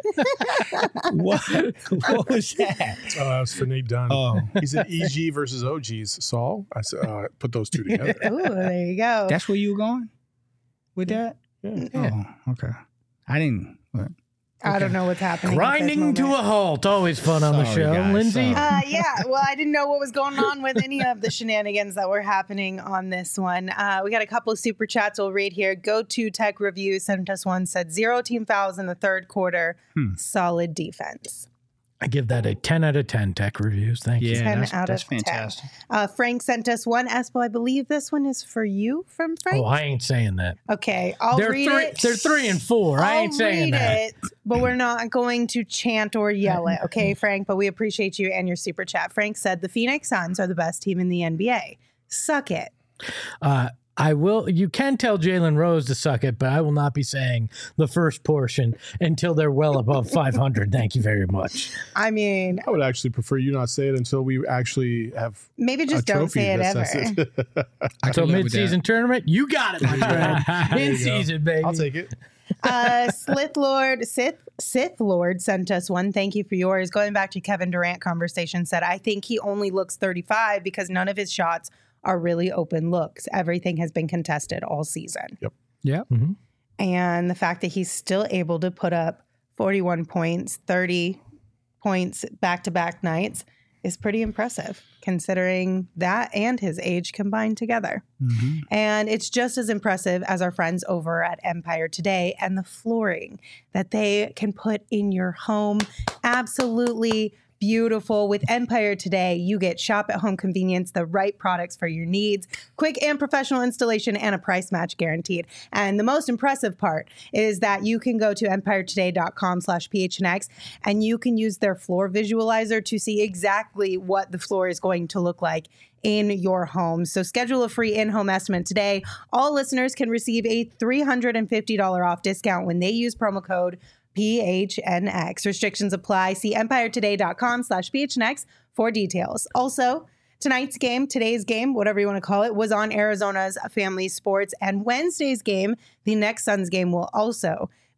What? What was that? Oh, that was for Nate Dunn. Oh, He said E G versus O Gs. Saul? I said, uh, put those two together. Ooh, there you go. that's where you were going with that? Yeah. Oh, okay. I didn't. What? I don't know what's happening. Grinding to a halt. Always fun on the Sorry, show. guys, Lindsay, sorry. Uh, yeah, well, I didn't know what was going on with any of the shenanigans that were happening on this one. Uh, we got a couple of super chats we'll read here. Go to Tech Review sent us one, said zero team fouls in the third quarter. Hmm. Solid defense. I give that a ten out of ten tech reviews. Thank you. Yeah, ten that's, out that's of ten. fantastic. Uh, Frank sent us one. Espo, I believe this one is for you from Frank. Oh, I ain't saying that. Okay, I'll They're read three. it. They're three and four. I ain't I'll saying read that. it, but we're not going to chant or yell it, okay, Frank? But we appreciate you and your super chat. Frank said the Phoenix Suns are the best team in the N B A. Suck it. Uh, I will. You can tell Jalen Rose to suck it, but I will not be saying the first portion until they're well above five hundred. Thank you very much. I mean, I would actually prefer you not say it until we actually have maybe a just don't trophy say it that ever. says it. I So can live with mid-season tournament, you got it, my friend. There In you go. season, baby. I'll take it. uh, Sith Lord, Sith, Sith Lord sent us one. Thank you for yours. Going back to Kevin Durant conversation, said, I think he only looks thirty-five because none of his shots are really open looks. Everything has been contested all season. Yeah. Mhm. And the fact that he's still able to put up forty-one points, thirty points back-to-back nights is pretty impressive, considering that and his age combined together. Mm-hmm. And it's just as impressive as our friends over at Empire Today and the flooring that they can put in your home. Absolutely beautiful. With Empire Today, you get shop at home convenience, the right products for your needs, quick and professional installation, and a price match guaranteed. And the most impressive part is that you can go to empire today dot com slash P H N X and you can use their floor visualizer to see exactly what the floor is going to look like in your home. So schedule a free in-home estimate today. All listeners can receive a three hundred fifty dollars off discount when they use promo code P H N X. Restrictions apply. See empire today dot com slash P H N X for details. Also, tonight's game, today's game, whatever you want to call it, was on Arizona's Family Sports. And Wednesday's game, the next Suns game, will also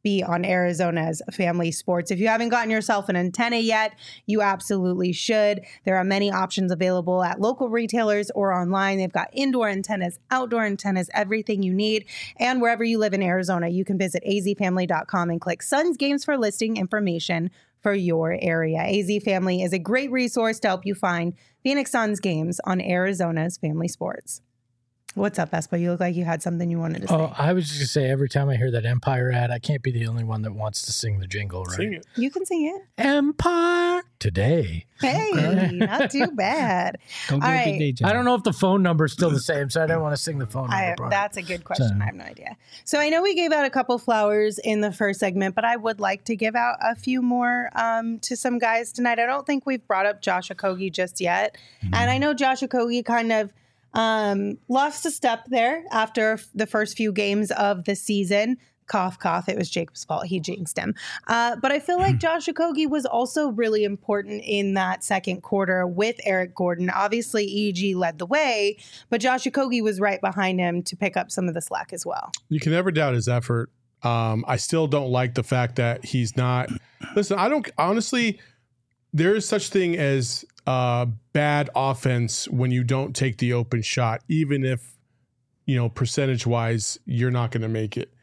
be on Arizona's Family Sports. If you haven't gotten yourself an antenna yet, you absolutely should. There are many options available at local retailers or online. They've got indoor antennas, outdoor antennas, everything you need. And wherever you live in Arizona, you can visit a z family dot com and click Suns Games for listing information for your area. A Z Family is a great resource to help you find Phoenix Suns games on Arizona's Family Sports. What's up, Espa? You look like you had something you wanted to say. Oh, I was just going to say, every time I hear that Empire ad, I can't be the only one that wants to sing the jingle, right? Sing it. You can sing it. Empire today. Hey, not too bad. Don't All do a right. big day job. I don't know if the phone number is still the same, so I didn't want to sing the phone number. I, part. that's a good question. So- I have no idea. So I know we gave out a couple flowers in the first segment, but I would like to give out a few more um, to some guys tonight. I don't think we've brought up Josh Okogie just yet. Mm-hmm. And I know Josh Okogie kind of um, lost a step there after the first few games of the season. Cough, cough. It was Jacob's fault. He jinxed him. Uh, but I feel like Josh Okogie was also really important in that second quarter with Eric Gordon. Obviously, E G led the way, but Josh Okogie was right behind him to pick up some of the slack as well. You can never doubt his effort. Um, I still don't like the fact that he's not. Listen, I don't honestly. There is such thing as uh, bad offense when you don't take the open shot, even if, you know, percentage wise, you're not going to make it.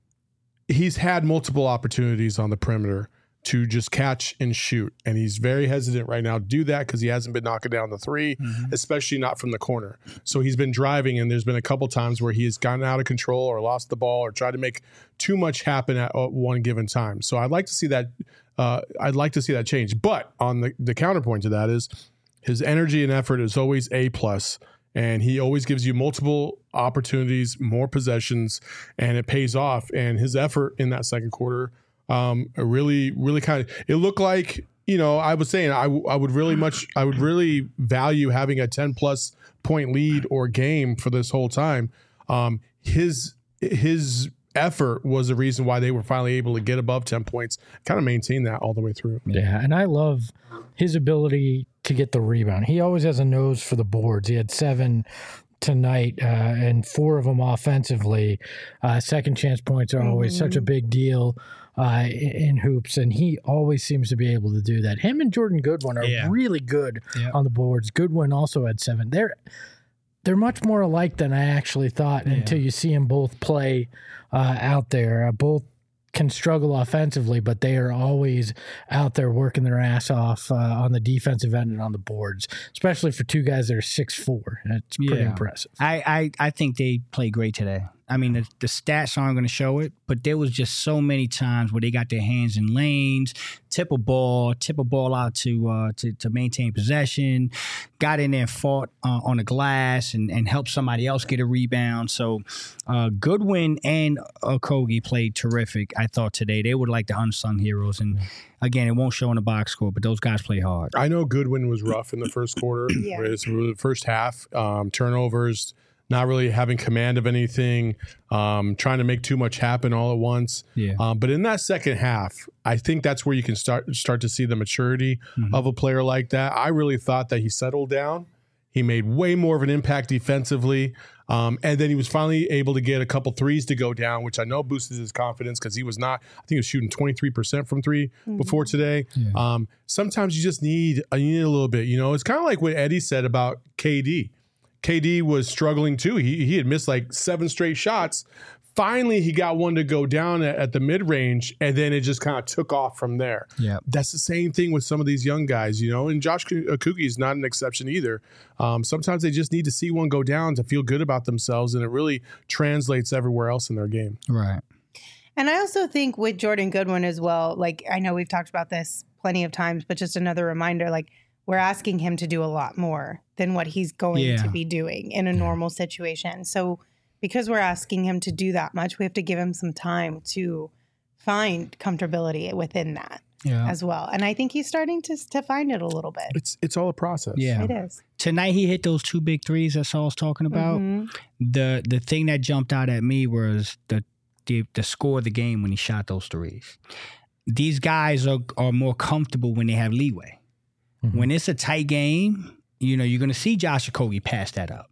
He's had multiple opportunities on the perimeter to just catch and shoot. And he's very hesitant right now to do that because he hasn't been knocking down the three, mm-hmm. especially not from the corner. So he's been driving, and there's been a couple times where he has gotten out of control or lost the ball or tried to make too much happen at one given time. So I'd like to see that. Uh, I'd like to see that change. But on the, the counterpoint to that is his energy and effort is always A plus. And he always gives you multiple opportunities, more possessions, and it pays off. And his effort in that second quarter um, really, really kind of, it looked like, you know, I was saying I, I would really much, I would really value having a ten plus point lead or game for this whole time. Um, his, his effort was the reason why they were finally able to get above ten points, kind of maintain that all the way through. Yeah, and I love his ability to get the rebound. He always has a nose for the boards. He had seven tonight, uh, and four of them offensively. Uh, second chance points are always mm-hmm. such a big deal uh, in, in hoops, and he always seems to be able to do that. Him and Jordan Goodwin are yeah. really good yeah. on the boards. Goodwin also had seven. They're they're much more alike than I actually thought yeah. until you see them both play uh, out there. Uh, both can struggle offensively, but they are always out there working their ass off uh, on the defensive end and on the boards, especially for two guys that are six foot four. That's pretty yeah. impressive. I, I, I think they played great today. I mean, the, the stats aren't going to show it, but there was just so many times where they got their hands in lanes, tip a ball, tip a ball out to uh, to, to maintain possession, got in there and fought uh, on the glass and, and helped somebody else get a rebound. So uh, Goodwin and Okogie played terrific, I thought, today. They were like the unsung heroes. And, again, it won't show in the box score, but those guys play hard. I know Goodwin was rough in the first quarter. yeah. It's really the first half, um, turnovers, not really having command of anything, um, trying to make too much happen all at once. Yeah. Um, but in that second half, I think that's where you can start start to see the maturity mm-hmm. of a player like that. I really thought that he settled down. He made way more of an impact defensively. Um, and then he was finally able to get a couple threes to go down, which I know boosted his confidence because he was not, I think he was shooting twenty-three percent from three mm-hmm. before today. Yeah. Um, sometimes you just need, you need a little bit, you know, it's kind of like what Eddie said about K D. K D was struggling too. He he had missed like seven straight shots. Finally, he got one to go down at, at the mid-range, and then it just kind of took off from there. Yeah, that's the same thing with some of these young guys, you know, and Josh Okogie is not an exception either. Um, sometimes they just need to see one go down to feel good about themselves, and it really translates everywhere else in their game. Right. And I also think with Jordan Goodwin as well, like I know we've talked about this plenty of times, but just another reminder, like we're asking him to do a lot more than what he's going yeah. to be doing in a yeah. normal situation. So because we're asking him to do that much, we have to give him some time to find comfortability within that yeah. as well. And I think he's starting to to find it a little bit. It's it's all a process. Yeah, it is. Tonight he hit those two big threes that Saul's talking about. Mm-hmm. The the thing that jumped out at me was the the, the score of the game when he shot those threes. These guys are are more comfortable when they have leeway. Mm-hmm. When it's a tight game, you know, you're going to see Josh Okogie pass that up.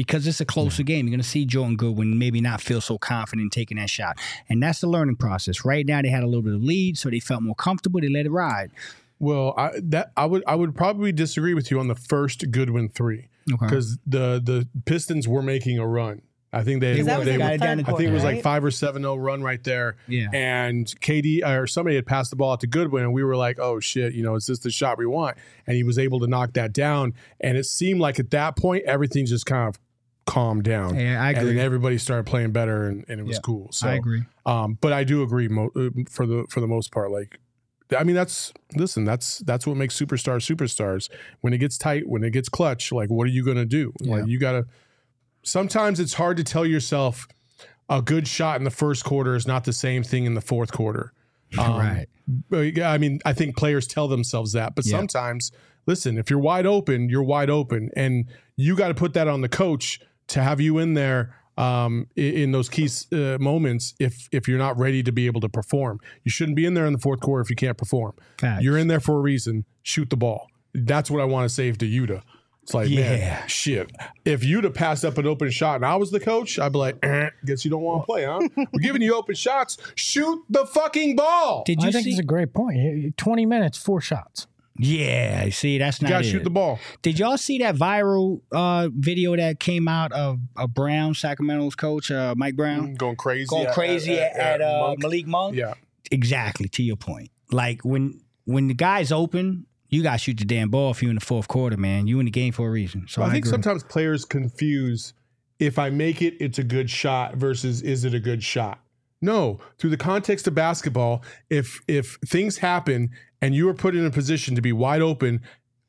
because it's a closer game. You're going to see Jordan Goodwin maybe not feel so confident in taking that shot. And that's the learning process. Right now, they had a little bit of lead, so they felt more comfortable. They let it ride. Well, I that I would I would probably disagree with you on the first Goodwin three because okay. the the Pistons were making a run. I think they, that was they in the were, third I quarter, think it was right? like five or seven oh run right there. Yeah. And K D or somebody had passed the ball out to Goodwin, and we were like, oh shit, you know, is this the shot we want? And he was able to knock that down. And it seemed like at that point everything just kind of calmed down. Yeah, I agree. And then everybody started playing better, and, and it was yeah, cool. So I agree. Um, but I do agree mo- for the for the most part, like. I mean, that's listen. That's that's what makes superstars superstars. When it gets tight, when it gets clutch, like what are you gonna do? Yeah. Like you gotta. Sometimes it's hard to tell yourself a good shot in the first quarter is not the same thing in the fourth quarter. Um, right. I mean, I think players tell themselves that, but yeah. sometimes, listen, if you're wide open, you're wide open, and you got to put that on the coach to have you in there. Um, in, in those key uh, moments, if if you're not ready to be able to perform, you shouldn't be in there in the fourth quarter if you can't perform. Facts. You're in there for a reason. Shoot the ball. That's what I want to say to Yuta. It's like, yeah. man, shit. If Yuta passed up an open shot and I was the coach, I'd be like, eh, guess you don't want to play, huh? We're giving you open shots. Shoot the fucking ball. Did you I think see? it's a great point. twenty minutes, four shots. Yeah, see, that's not you gotta it. shoot the ball. Did y'all see that viral uh, video that came out of, of Brown, Sacramento's coach, uh, Mike Brown? Going crazy. Going at, crazy at, at, at uh, Monk. Malik Monk? Yeah. Exactly, to your point. Like, when when the guy's open, you got to shoot the damn ball if you're in the fourth quarter, man. You in the game for a reason. So well, I, I think agree. sometimes players confuse if I make it, it's a good shot versus is it a good shot? No, through the context of basketball, if if things happen and you are put in a position to be wide open,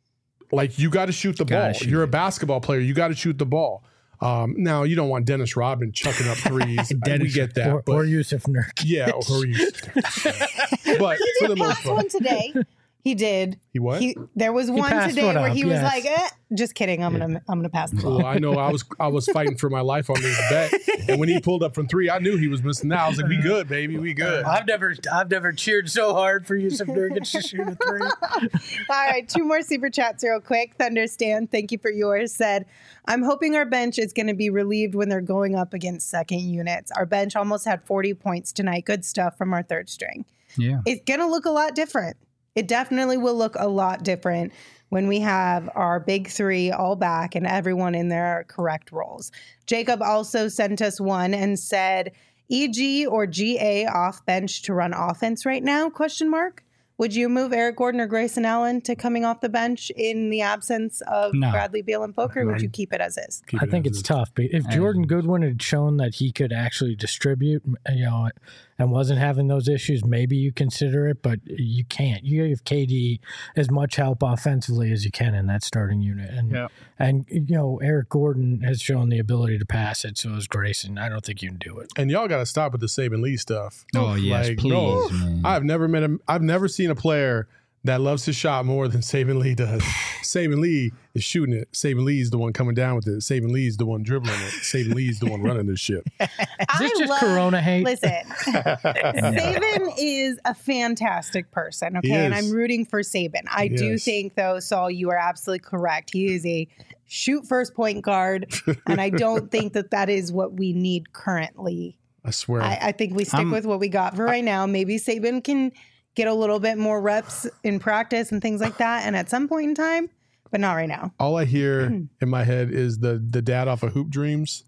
like you got to shoot the ball. Shoot You're it. a basketball player. You got to shoot the ball. Um, now, you don't want Dennis Rodman chucking up threes. we get that. Or, but, or Yusuf Nurkic. Yeah, or Yusuf. But for the most Passed part. one today. He did. He what? He, there was one passed today one where up, he was yes. like, eh, "Just kidding. I'm gonna, I'm gonna pass the ball." Well, I know I was I was fighting for my life on this bet, and when he pulled up from three, I knew he was missing that. I was like, "We good, baby, we good." I've never, I've never cheered so hard for Yusuf Nurkic to shoot a three. All right, two more super chats real quick. Thunderstand, thank you for yours. Said, I'm hoping our bench is going to be relieved when they're going up against second units. Our bench almost had forty points tonight. Good stuff from our third string. Yeah. It's going to look a lot different. It definitely will look a lot different when we have our big three all back and everyone in their correct roles. Jacob also sent us one and said, E G or G A off bench to run offense right now, question mark. Would you move Eric Gordon or Grayson Allen to coming off the bench in the absence of No. Bradley Beal and Booker? Or would you keep it as is? Keep I it think as it's is. tough. But if Jordan Goodwin had shown that he could actually distribute, you know, and wasn't having those issues, maybe you consider it, but you can't. You give K D as much help offensively as you can in that starting unit. And, Yeah. and you know, Eric Gordon has shown the ability to pass it, so is Grayson. I don't think you can do it. And y'all got to stop with the Saban Lee stuff. Oh, yes, Like, please, no, man. I've never met him. I've never seen a player that loves his shot more than Saban Lee does. Saban Lee is shooting it. Saban Lee's the one coming down with it. Saban Lee's the one dribbling it. Saban Lee's the one running this shit. Is this just Corona hate? Listen, Saban is a fantastic person, okay? He And is. I'm rooting for Saban. I do Yes. think, though, Saul, you are absolutely correct. He is a shoot first point guard, and I don't think that that is what we need currently. I swear. I, I think we stick I'm- with what we got for right now. Maybe Saban can get a little bit more reps in practice and things like that, and at some point in time, but not right now. All I hear in my head is the the dad off of Hoop Dreams.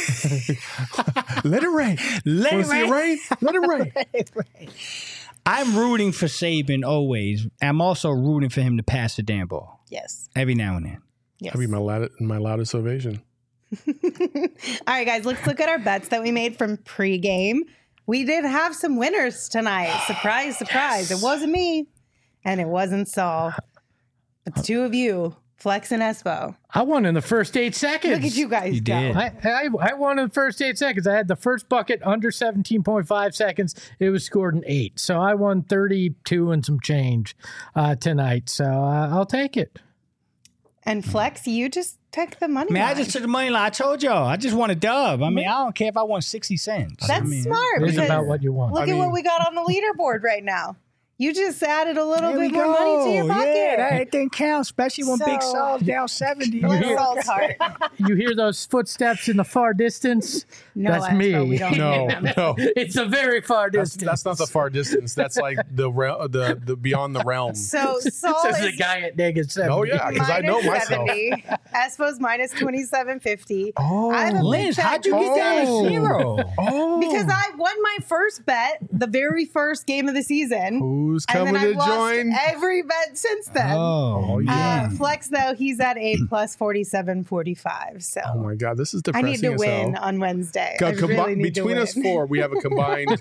Let it rain. Let Wanna it see it rain? Let it rain. I'm rooting for Saban always. I'm also rooting for him to pass the damn ball Yes. every now and then. Yes. That'd be my loud, my loudest ovation. All right, guys, let's look at our bets that we made from pregame. We did have some winners tonight. Surprise, surprise. It wasn't me and it wasn't Saul. But the two of you, Flex and Espo. I won in the first eight seconds. Look at you guys You go. did. I, I I won in the first eight seconds. I had the first bucket under seventeen point five seconds. It was scored in eight. So I won thirty-two and some change uh, tonight. So uh, I'll take it. And Flex, you just took the money. I mean, I line. just took the money line. I told y'all. I just want a dub. I mean, I don't care if I won sixty cents. That's I mean, smart. It's because about what you want. Look I at mean- what we got on the leaderboard right now. You just added a little There we bit more money to your go. pocket. Yeah, that everything counts, especially when Big So- Sal's down seventy. Bless hear- Saul's heart. You hear those footsteps in the far distance? No, That's Astro, me. we don't No, need them. no. It's a very far That's, distance. that's not the far distance. That's like the real, the the beyond the realm. So Saul Says the is guy at negative seventy. Oh yeah, because I know minus myself. seventy. Espo's minus twenty-seven fifty. Oh, I have a big Liz, fat how'd you get down Oh. to zero? oh, Because I won my first bet, the very first game of the season. who's And coming then I've to lost join? every bet since then. Oh, Uh, yeah. Flex though, he's at a plus forty-seven forty-five. So Oh my god, this is I depressing. need to as win hell. on Wednesday. Co- I combi- really need between to us win. four, we have a combined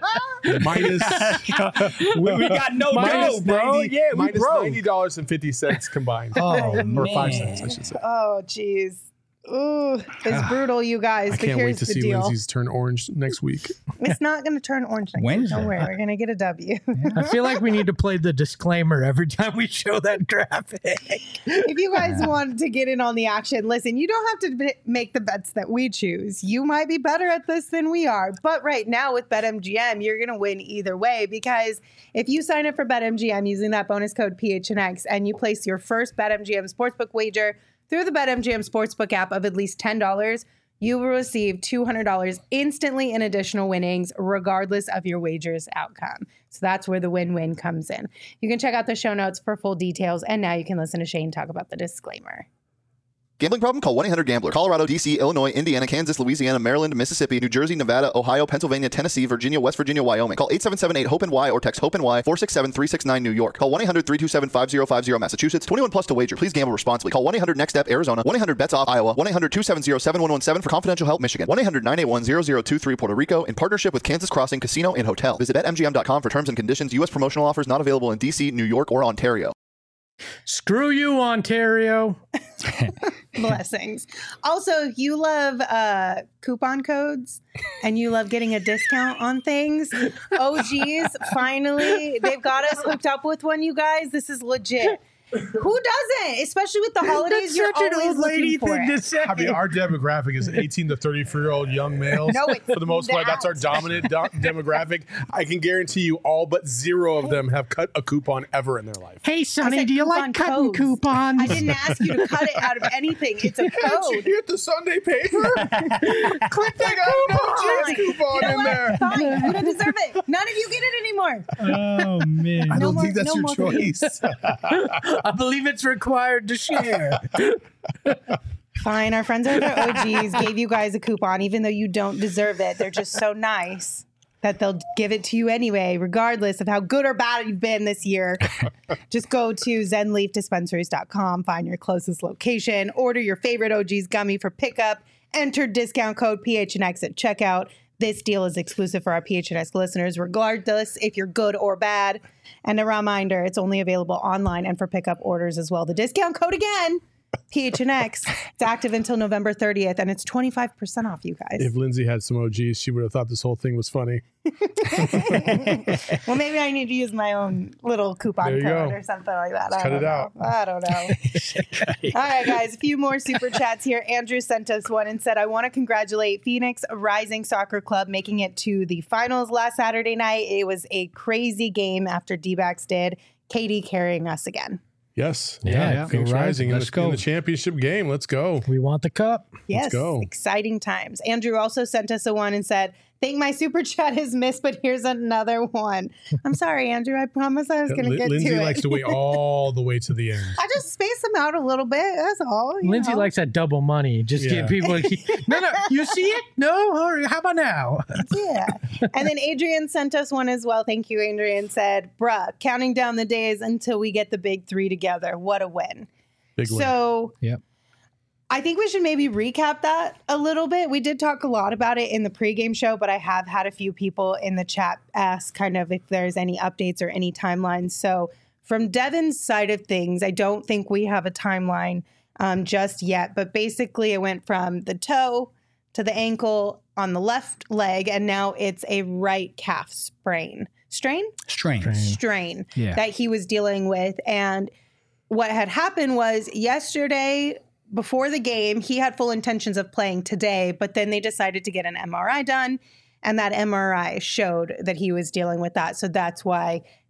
minus we, we got no minus dough, bro. ninety, Yeah, we minus broke. ninety dollars and fifty cents combined, Oh, or man. five cents, I should say. Oh, jeez. Ooh, it's brutal, you guys. I but can't here's wait to the see deal. Lindsay's turn orange next week. It's not going to turn orange next week. Wednesday. Don't worry, we're going to get a W. I feel like we need to play the disclaimer every time we show that graphic. If you guys want to get in on the action, listen, you don't have to b- make the bets that we choose. You might be better at this than we are. But right now with BetMGM, you're going to win either way because if you sign up for BetMGM using that bonus code P H N X and you place your first BetMGM sportsbook wager through the BetMGM sportsbook app of at least ten dollars, you will receive two hundred dollars instantly in additional winnings, regardless of your wager's outcome. So that's where the win-win comes in. You can check out the show notes for full details, and now you can listen to Shane talk about the disclaimer. Gambling problem? Call one eight hundred gambler. Colorado, D C, Illinois, Indiana, Kansas, Louisiana, Maryland, Mississippi, New Jersey, Nevada, Ohio, Pennsylvania, Tennessee, Virginia, West Virginia, Wyoming. Call eight seven seven eight hope N Y or text HOPE-N Y four six seven three six nine New York. Call one eight hundred three two seven five zero five zero Massachusetts. twenty-one plus to wager. Please gamble responsibly. Call one eight hundred next step Arizona. one eight hundred bets off Iowa. one eight hundred two seven zero seven one one seven for confidential help Michigan. one eight hundred nine eight one zero zero two three Puerto Rico in partnership with Kansas Crossing Casino and Hotel. Visit bet M G M dot com for terms and conditions. U S promotional offers not available in D C, New York, or Ontario. Screw you, Ontario. Blessings. Also, if you love uh, coupon codes and you love getting a discount on things, O Gs, finally, they've got us hooked up with one, you guys. This is legit. Who doesn't? Especially with the holidays, That's you're such an always old lady looking for thing it. to say. I mean, our demographic is eighteen to thirty-four year old young males. No, it's for the most part, that's our not. dominant do- demographic. I can guarantee you, all but zero of them have cut a coupon ever in their life. Hey, Sonny, said do you coupon like cutting codes. coupons? I didn't ask you to cut it out of anything. It's a Can't you code. get the Sunday paper? Click that coupon. You coupon know in what? there. Fine. You don't deserve it. None of you get it anymore. Oh, man. I No don't more- think that's no your more. choice. I believe it's required to share. Fine. Our friends over at O Gs gave you guys a coupon, even though you don't deserve it. They're just so nice that they'll give it to you anyway, regardless of how good or bad you've been this year. Just go to zen leaf dispensaries dot com, find your closest location, order your favorite O Gs gummy for pickup, enter discount code P H N X at checkout. This deal is exclusive for our P H N X listeners, regardless if you're good or bad. And a reminder, it's only available online and for pickup orders as well. The discount code again, P H N X. It's active until November thirtieth, and it's twenty-five percent off, you guys. If Lindsay had some O Gs, she would have thought this whole thing was funny. Well, maybe I need to use my own little coupon There you code go. or something like that. Let's I cut don't it know. out. I don't know. All right, guys, a few more super chats here. Andrew sent us one and said, I want to congratulate Phoenix Rising Soccer Club making it to the finals last Saturday night. It was a crazy game after D-backs did. Katie carrying us again. Yes. Yeah, Yeah. yeah. Phoenix Go Rising in Rising. the, Let's in go. the championship game. Let's go. We want the cup. Yes, go. exciting times. Andrew also sent us a one and said, think my super chat is missed, but here's another one. I'm sorry, Andrew. I promise I was going to Lin- get Lindsay to it. likes to wait all the way to the end. I just space them out a little bit. That's all. you Lindsay know. likes that double money. Just Yeah. get people. No, no. You see it? No. Or how about now? Yeah. And then Adrian sent us one as well. Thank you, Adrian. Said, bruh, counting down the days until we get the big three together. What a win. Big win. So Yep. I think we should maybe recap that a little bit. We did talk a lot about it in the pregame show, but I have had a few people in the chat ask kind of if there's any updates or any timelines. So from Devin's side of things, I don't think we have a timeline um, just yet. But basically, it went from the toe to the ankle on the left leg, and now it's a right calf sprain. Strain? Strange. Strain Yeah. that he was dealing with. And what had happened was yesterday, before the game, he had full intentions of playing today, but then they decided to get an M R I done, and that M R I showed that he was dealing with that. So that's why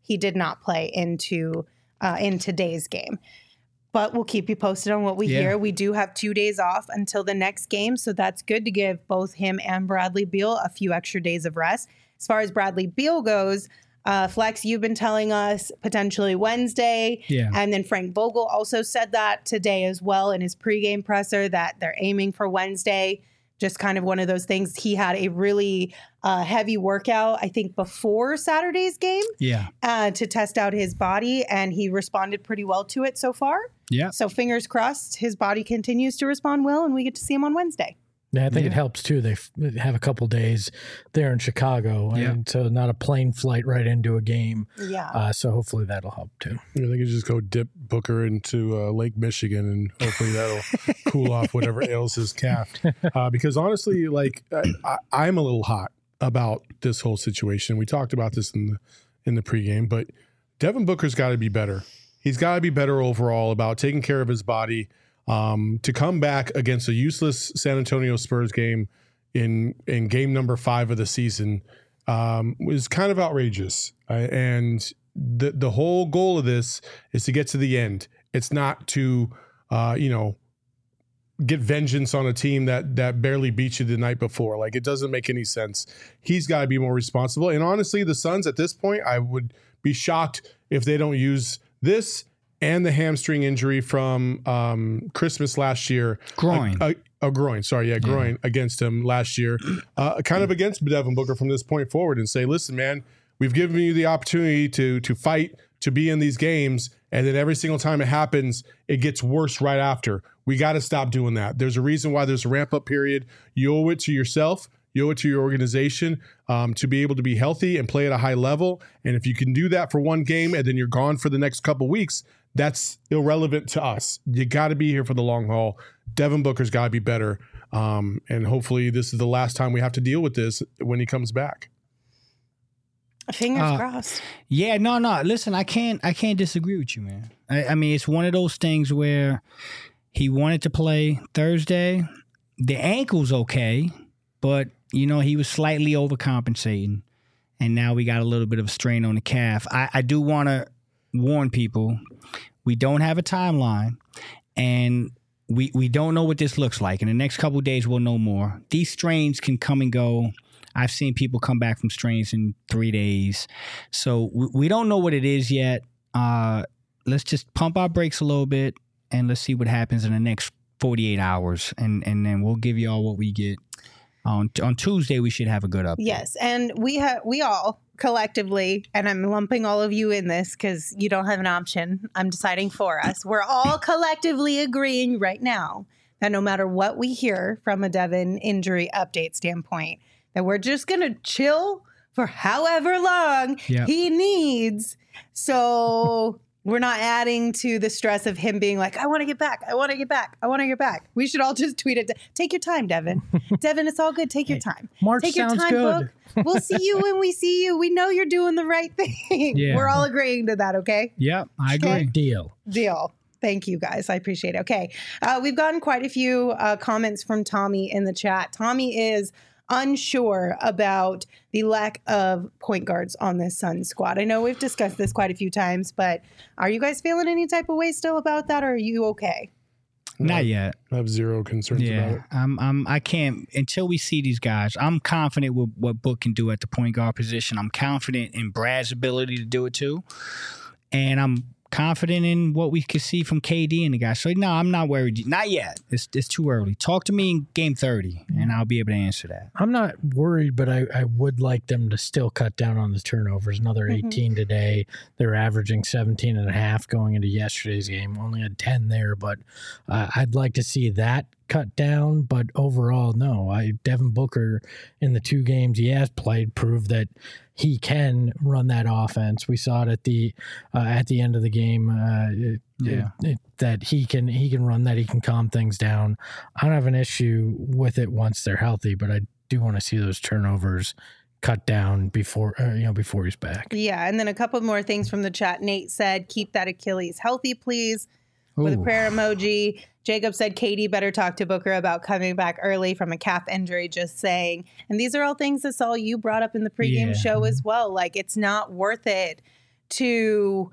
he did not play into uh, in today's game. But we'll keep you posted on what we Yeah. hear. We do have two days off until the next game, so that's good to give both him and Bradley Beal a few extra days of rest. As far as Bradley Beal goes, uh, Flex, you've been telling us potentially Wednesday. Yeah. And then Frank Vogel also said that today as well in his pregame presser that they're aiming for Wednesday. Just kind of one of those things. He had a really uh, heavy workout, I think, before Saturday's game Yeah. uh, to test out his body, and he responded pretty well to it so far. Yeah. So fingers crossed his body continues to respond well, and we get to see him on Wednesday. Yeah, I think Yeah. it helps too. They f- have a couple days there in Chicago, Yeah. and so not a plane flight right into a game. Yeah. Uh, so hopefully that'll help too. I think you just go dip Booker into uh, Lake Michigan, and hopefully that'll cool off whatever ails his calf. Uh, because honestly, like I, I, I'm a little hot about this whole situation. We talked about this in the in the pregame, but Devin Booker's got to be better. He's got to be better overall about taking care of his body. Um, to come back against a useless San Antonio Spurs game in in game number five of the season um, was kind of outrageous. Uh, and the the whole goal of this is to get to the end. It's not to uh, you know get vengeance on a team that that barely beat you the night before. Like, it doesn't make any sense. He's got to be more responsible. And honestly, the Suns at this point, I would be shocked if they don't use this and the hamstring injury from um, Christmas last year. Groin. A, a, a groin, sorry, yeah, groin yeah. against him last year. Uh, kind of against Devin Booker from this point forward and say, listen, man, we've given you the opportunity to to fight, to be in these games, and then every single time it happens, it gets worse right after. We got to stop doing that. There's a reason why there's a ramp-up period. You owe it to yourself. You owe it to your organization um, to be able to be healthy and play at a high level. And if you can do that for one game and then you're gone for the next couple weeks, that's irrelevant to us. You got to be here for the long haul. Devin Booker's got to be better. Um, and hopefully this is the last time we have to deal with this when he comes back. Fingers Uh, crossed. Yeah, no, no. Listen, I can't, I can't disagree with you, man. I, I mean, it's one of those things where he wanted to play Thursday. The ankle's okay, but you know he was slightly overcompensating, and now we got a little bit of a strain on the calf. I, I do want to warn people: we don't have a timeline, and we we don't know what this looks like. In the next couple of days, we'll know more. These strains can come and go. I've seen people come back from strains in three days. So we, we don't know what it is yet. Uh, let's just pump our brakes a little bit and let's see what happens in the next forty-eight hours. And, and then we'll give you all what we get. On, on Tuesday, we should have a good update. Yes. And we have, we all collectively, and I'm lumping all of you in this because you don't have an option. I'm deciding for us. We're all collectively agreeing right now that no matter what we hear from a Devin injury update standpoint, that we're just going to chill for however long Yep. he needs. So we're not adding to the stress of him being like, I want to get back. I want to get back. I want to get back. We should all just tweet it. Take your time, Devin. Devin, it's all good. Take your time. March Take your sounds time, good. Book. We'll see you when we see you. We know you're doing the right thing. Yeah. We're all agreeing to that, okay? Yep, I Okay. agree. Deal. Deal. Thank you, guys. I appreciate it. Okay. Uh, we've gotten quite a few uh, comments from Tommy in the chat. Tommy is unsure about the lack of point guards on this Suns squad. I know we've discussed this quite a few times, but are you guys feeling any type of way still about that, or are you okay? Not yet. I have zero concerns about Yeah, it. I'm, I'm, I can't until we see these guys. I'm confident with what Book can do at the point guard position. I'm confident in Brad's ability to do it too, and I'm confident in what we could see from K D and the guys. So no, I'm not worried. Not yet. It's it's too early. Talk to me in game thirty, and I'll be able to answer that. I'm not worried, but I, I would like them to still cut down on the turnovers. Another Mhm. eighteen today. They're averaging seventeen and a half going into yesterday's game. Only had ten there, but uh, I'd like to see that cut down. But overall, no. I Devin Booker in the two games he has played proved that he can run that offense. We saw it at the uh, at the end of the game. Uh, it, Yeah. it, it, that he can he can run that. He can calm things down. I don't have an issue with it once they're healthy, but I do want to see those turnovers cut down before uh, you know before he's back. Yeah. And then a couple more things from the chat. Nate said, keep that Achilles healthy, please, with a Ooh. prayer emoji. Jacob said, Katie better talk to Booker about coming back early from a calf injury, just saying. And these are all things that Saul, you brought up in the pregame Yeah. show as well. Like, it's not worth it to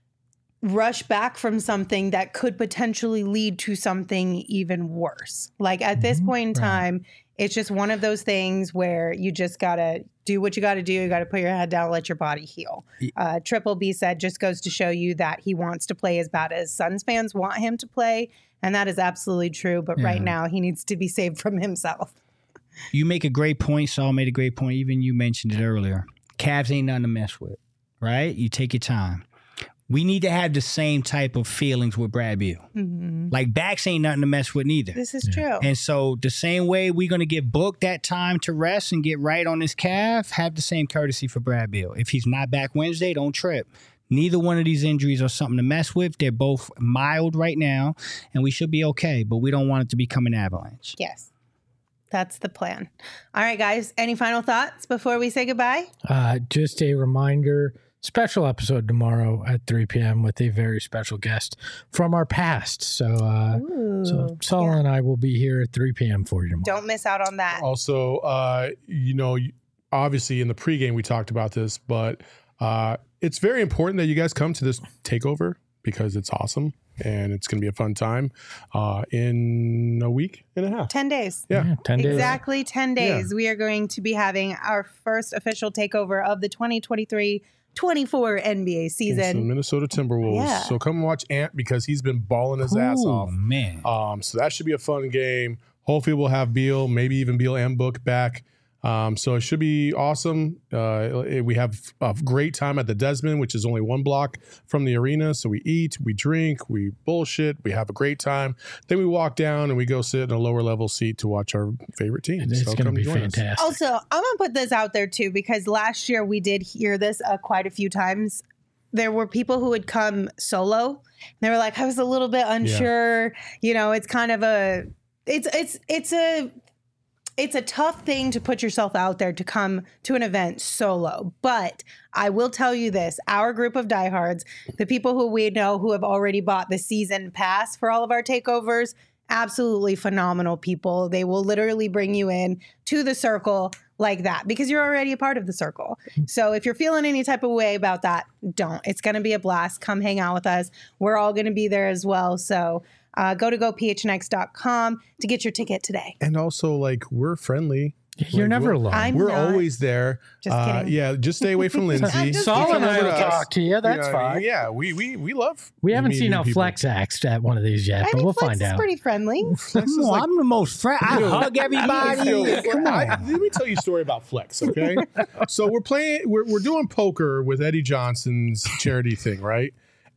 rush back from something that could potentially lead to something even worse. Like at this point in time, it's just one of those things where you just got to do what you got to do. You got to put your head down, let your body heal. Uh, Triple B said just goes to show you that he wants to play as bad as Suns fans want him to play. And that is absolutely true. But Yeah. right now, he needs to be saved from himself. You make a great point. Saul made a great point. Even you mentioned it earlier. Cavs ain't nothing to mess with, right? You take your time. We need to have the same type of feelings with Brad Beal. Mm-hmm. Like backs ain't nothing to mess with neither. This is true. And so the same way we're going to give Book that time to rest and get right on his calf, have the same courtesy for Brad Beal. If he's not back Wednesday, don't trip. Neither one of these injuries are something to mess with. They're both mild right now, and we should be okay, but we don't want it to become an avalanche. Yes. That's the plan. All right, guys. Any final thoughts before we say goodbye? Uh, just a reminder, special episode tomorrow at three p.m. with a very special guest from our past. So, uh, Ooh, so Saul yeah. and I will be here at three p.m. for you tomorrow. Don't miss out on that. Also, uh, you know, obviously in the pregame we talked about this, but uh, it's very important that you guys come to this takeover because it's awesome and it's going to be a fun time uh, in a week and a half. ten days. Yeah. Yeah, ten days. Exactly ten days. We are going to be having our first official takeover of the twenty twenty-three twenty-four N B A Against the season. Minnesota Timberwolves. Yeah. So come and watch Ant because he's been balling his ass Ooh, off. man. Um, so that should be a fun game. Hopefully we'll have Beal, maybe even Beal and Book back. Um, so it should be awesome. Uh, we have a great time at the Desmond, which is only one block from the arena. So we eat, we drink, we bullshit, we have a great time. Then we walk down and we go sit in a lower level seat to watch our favorite team. It's So going to come be join us. fantastic. Also, I'm going to put this out there too, because last year we did hear this uh, quite a few times. There were people who would come solo. They were like, I was a little bit unsure. You know, it's kind of a, it's, it's, it's a, it's a tough thing to put yourself out there to come to an event solo. But I will tell you this, our group of diehards, the people who we know who have already bought the season pass for all of our takeovers, absolutely phenomenal people. They will literally bring you in to the circle like that because you're already a part of the circle. So if you're feeling any type of way about that, don't. It's going to be a blast. Come hang out with us. We're all going to be there as well. So uh, go to go p h n x dot com to get your ticket today. And also, like, we're friendly. You're Like, never we're- alone. I'm We're not. always there. Just Uh, kidding. yeah, just stay away from Lindsay. I'm just Saul and I Come will over to us. talk to you. That's You know what I mean? fine. Yeah, we we we love. We haven't meeting seen how people. Flex acts at one of these yet, I but mean, we'll Flex find is out. pretty friendly. Flex is Come on, like- I'm the most friend. I hug everybody. Yo, Come I- on. let me tell you a story about Flex, okay? So we're playing, we're, we're doing poker with Eddie Johnson's charity thing, right?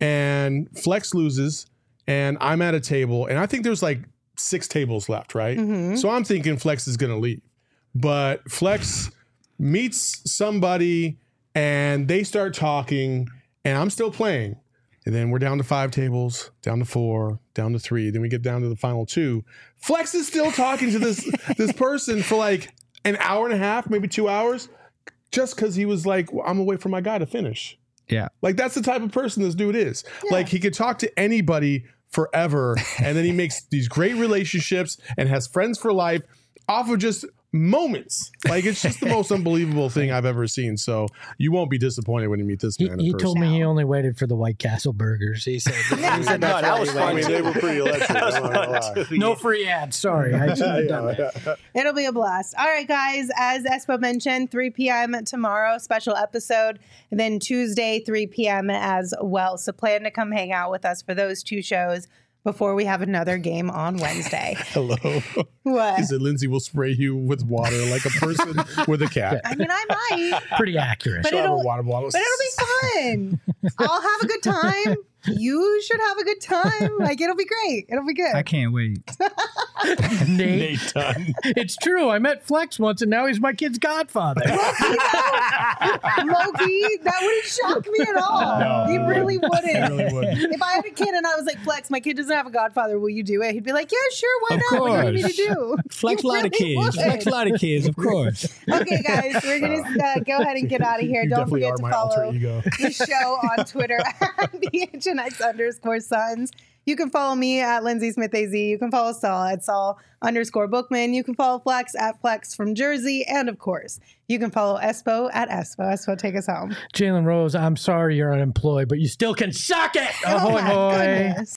And Flex loses, and I'm at a table, and I think there's like six tables left, right? Mhm. So I'm thinking Flex is going to leave. But Flex meets somebody, and they start talking, and I'm still playing. And then we're down to five tables, down to four, down to three. Then we get down to the final two. Flex is still talking to this this person for like an hour and a half, maybe two hours, just because he was like, well, I'm gonna wait for my guy to finish. Yeah. Like that's the type of person this dude is. Like he could talk to anybody forever, and then he makes these great relationships and has friends for life off of just moments. Like it's just the most unbelievable thing I've ever seen. So you won't be disappointed when you meet this He, man. he in person. told me he only waited for the White Castle burgers. He said, he said No, that's that why was he fun. I waited. mean, they were pretty electric. I'm not gonna lie. No free ads. Sorry, I should have done that. It'll be a blast. All right, guys. As Espo mentioned, three p.m. tomorrow, special episode. And then Tuesday, three p.m. as well. So plan to come hang out with us for those two shows before we have another game on Wednesday. Hello. What? He said Lindsay will spray you with water like a person with a cat. I mean, I might, Pretty accurate. but She'll have a it'll, water bottle. but it'll be fun. I'll have a good time. You should have a good time. Like, it'll be great. It'll be good. I can't wait. Nate, Nate Dunn. it's true. I met Flex once, and now he's my kid's godfather. Loki, that wouldn't shock me at all. No, he it really wouldn't. It really would. If I had a kid and I was like, Flex, my kid doesn't have a godfather, will you do it? He'd be like, yeah, sure, why Of not? What do you need course. to do? Flex He a lot of really kids. would. Flex a lot of kids, of course. Okay, guys, we're going to uh, go ahead and get out of here. You Don't definitely forget are to my alter follow ego. the show on Twitter at B H N X underscore Suns. You can follow me at Lindsay Smith A Z. You can follow Saul at Saul underscore Bookman. You can follow Flex at Flex from Jersey. And of course, you can follow Espo at Espo. Espo, take us home. Jalen Rose, I'm sorry you're unemployed, but you still can suck it. Oh, Ahoy, my hoy. goodness.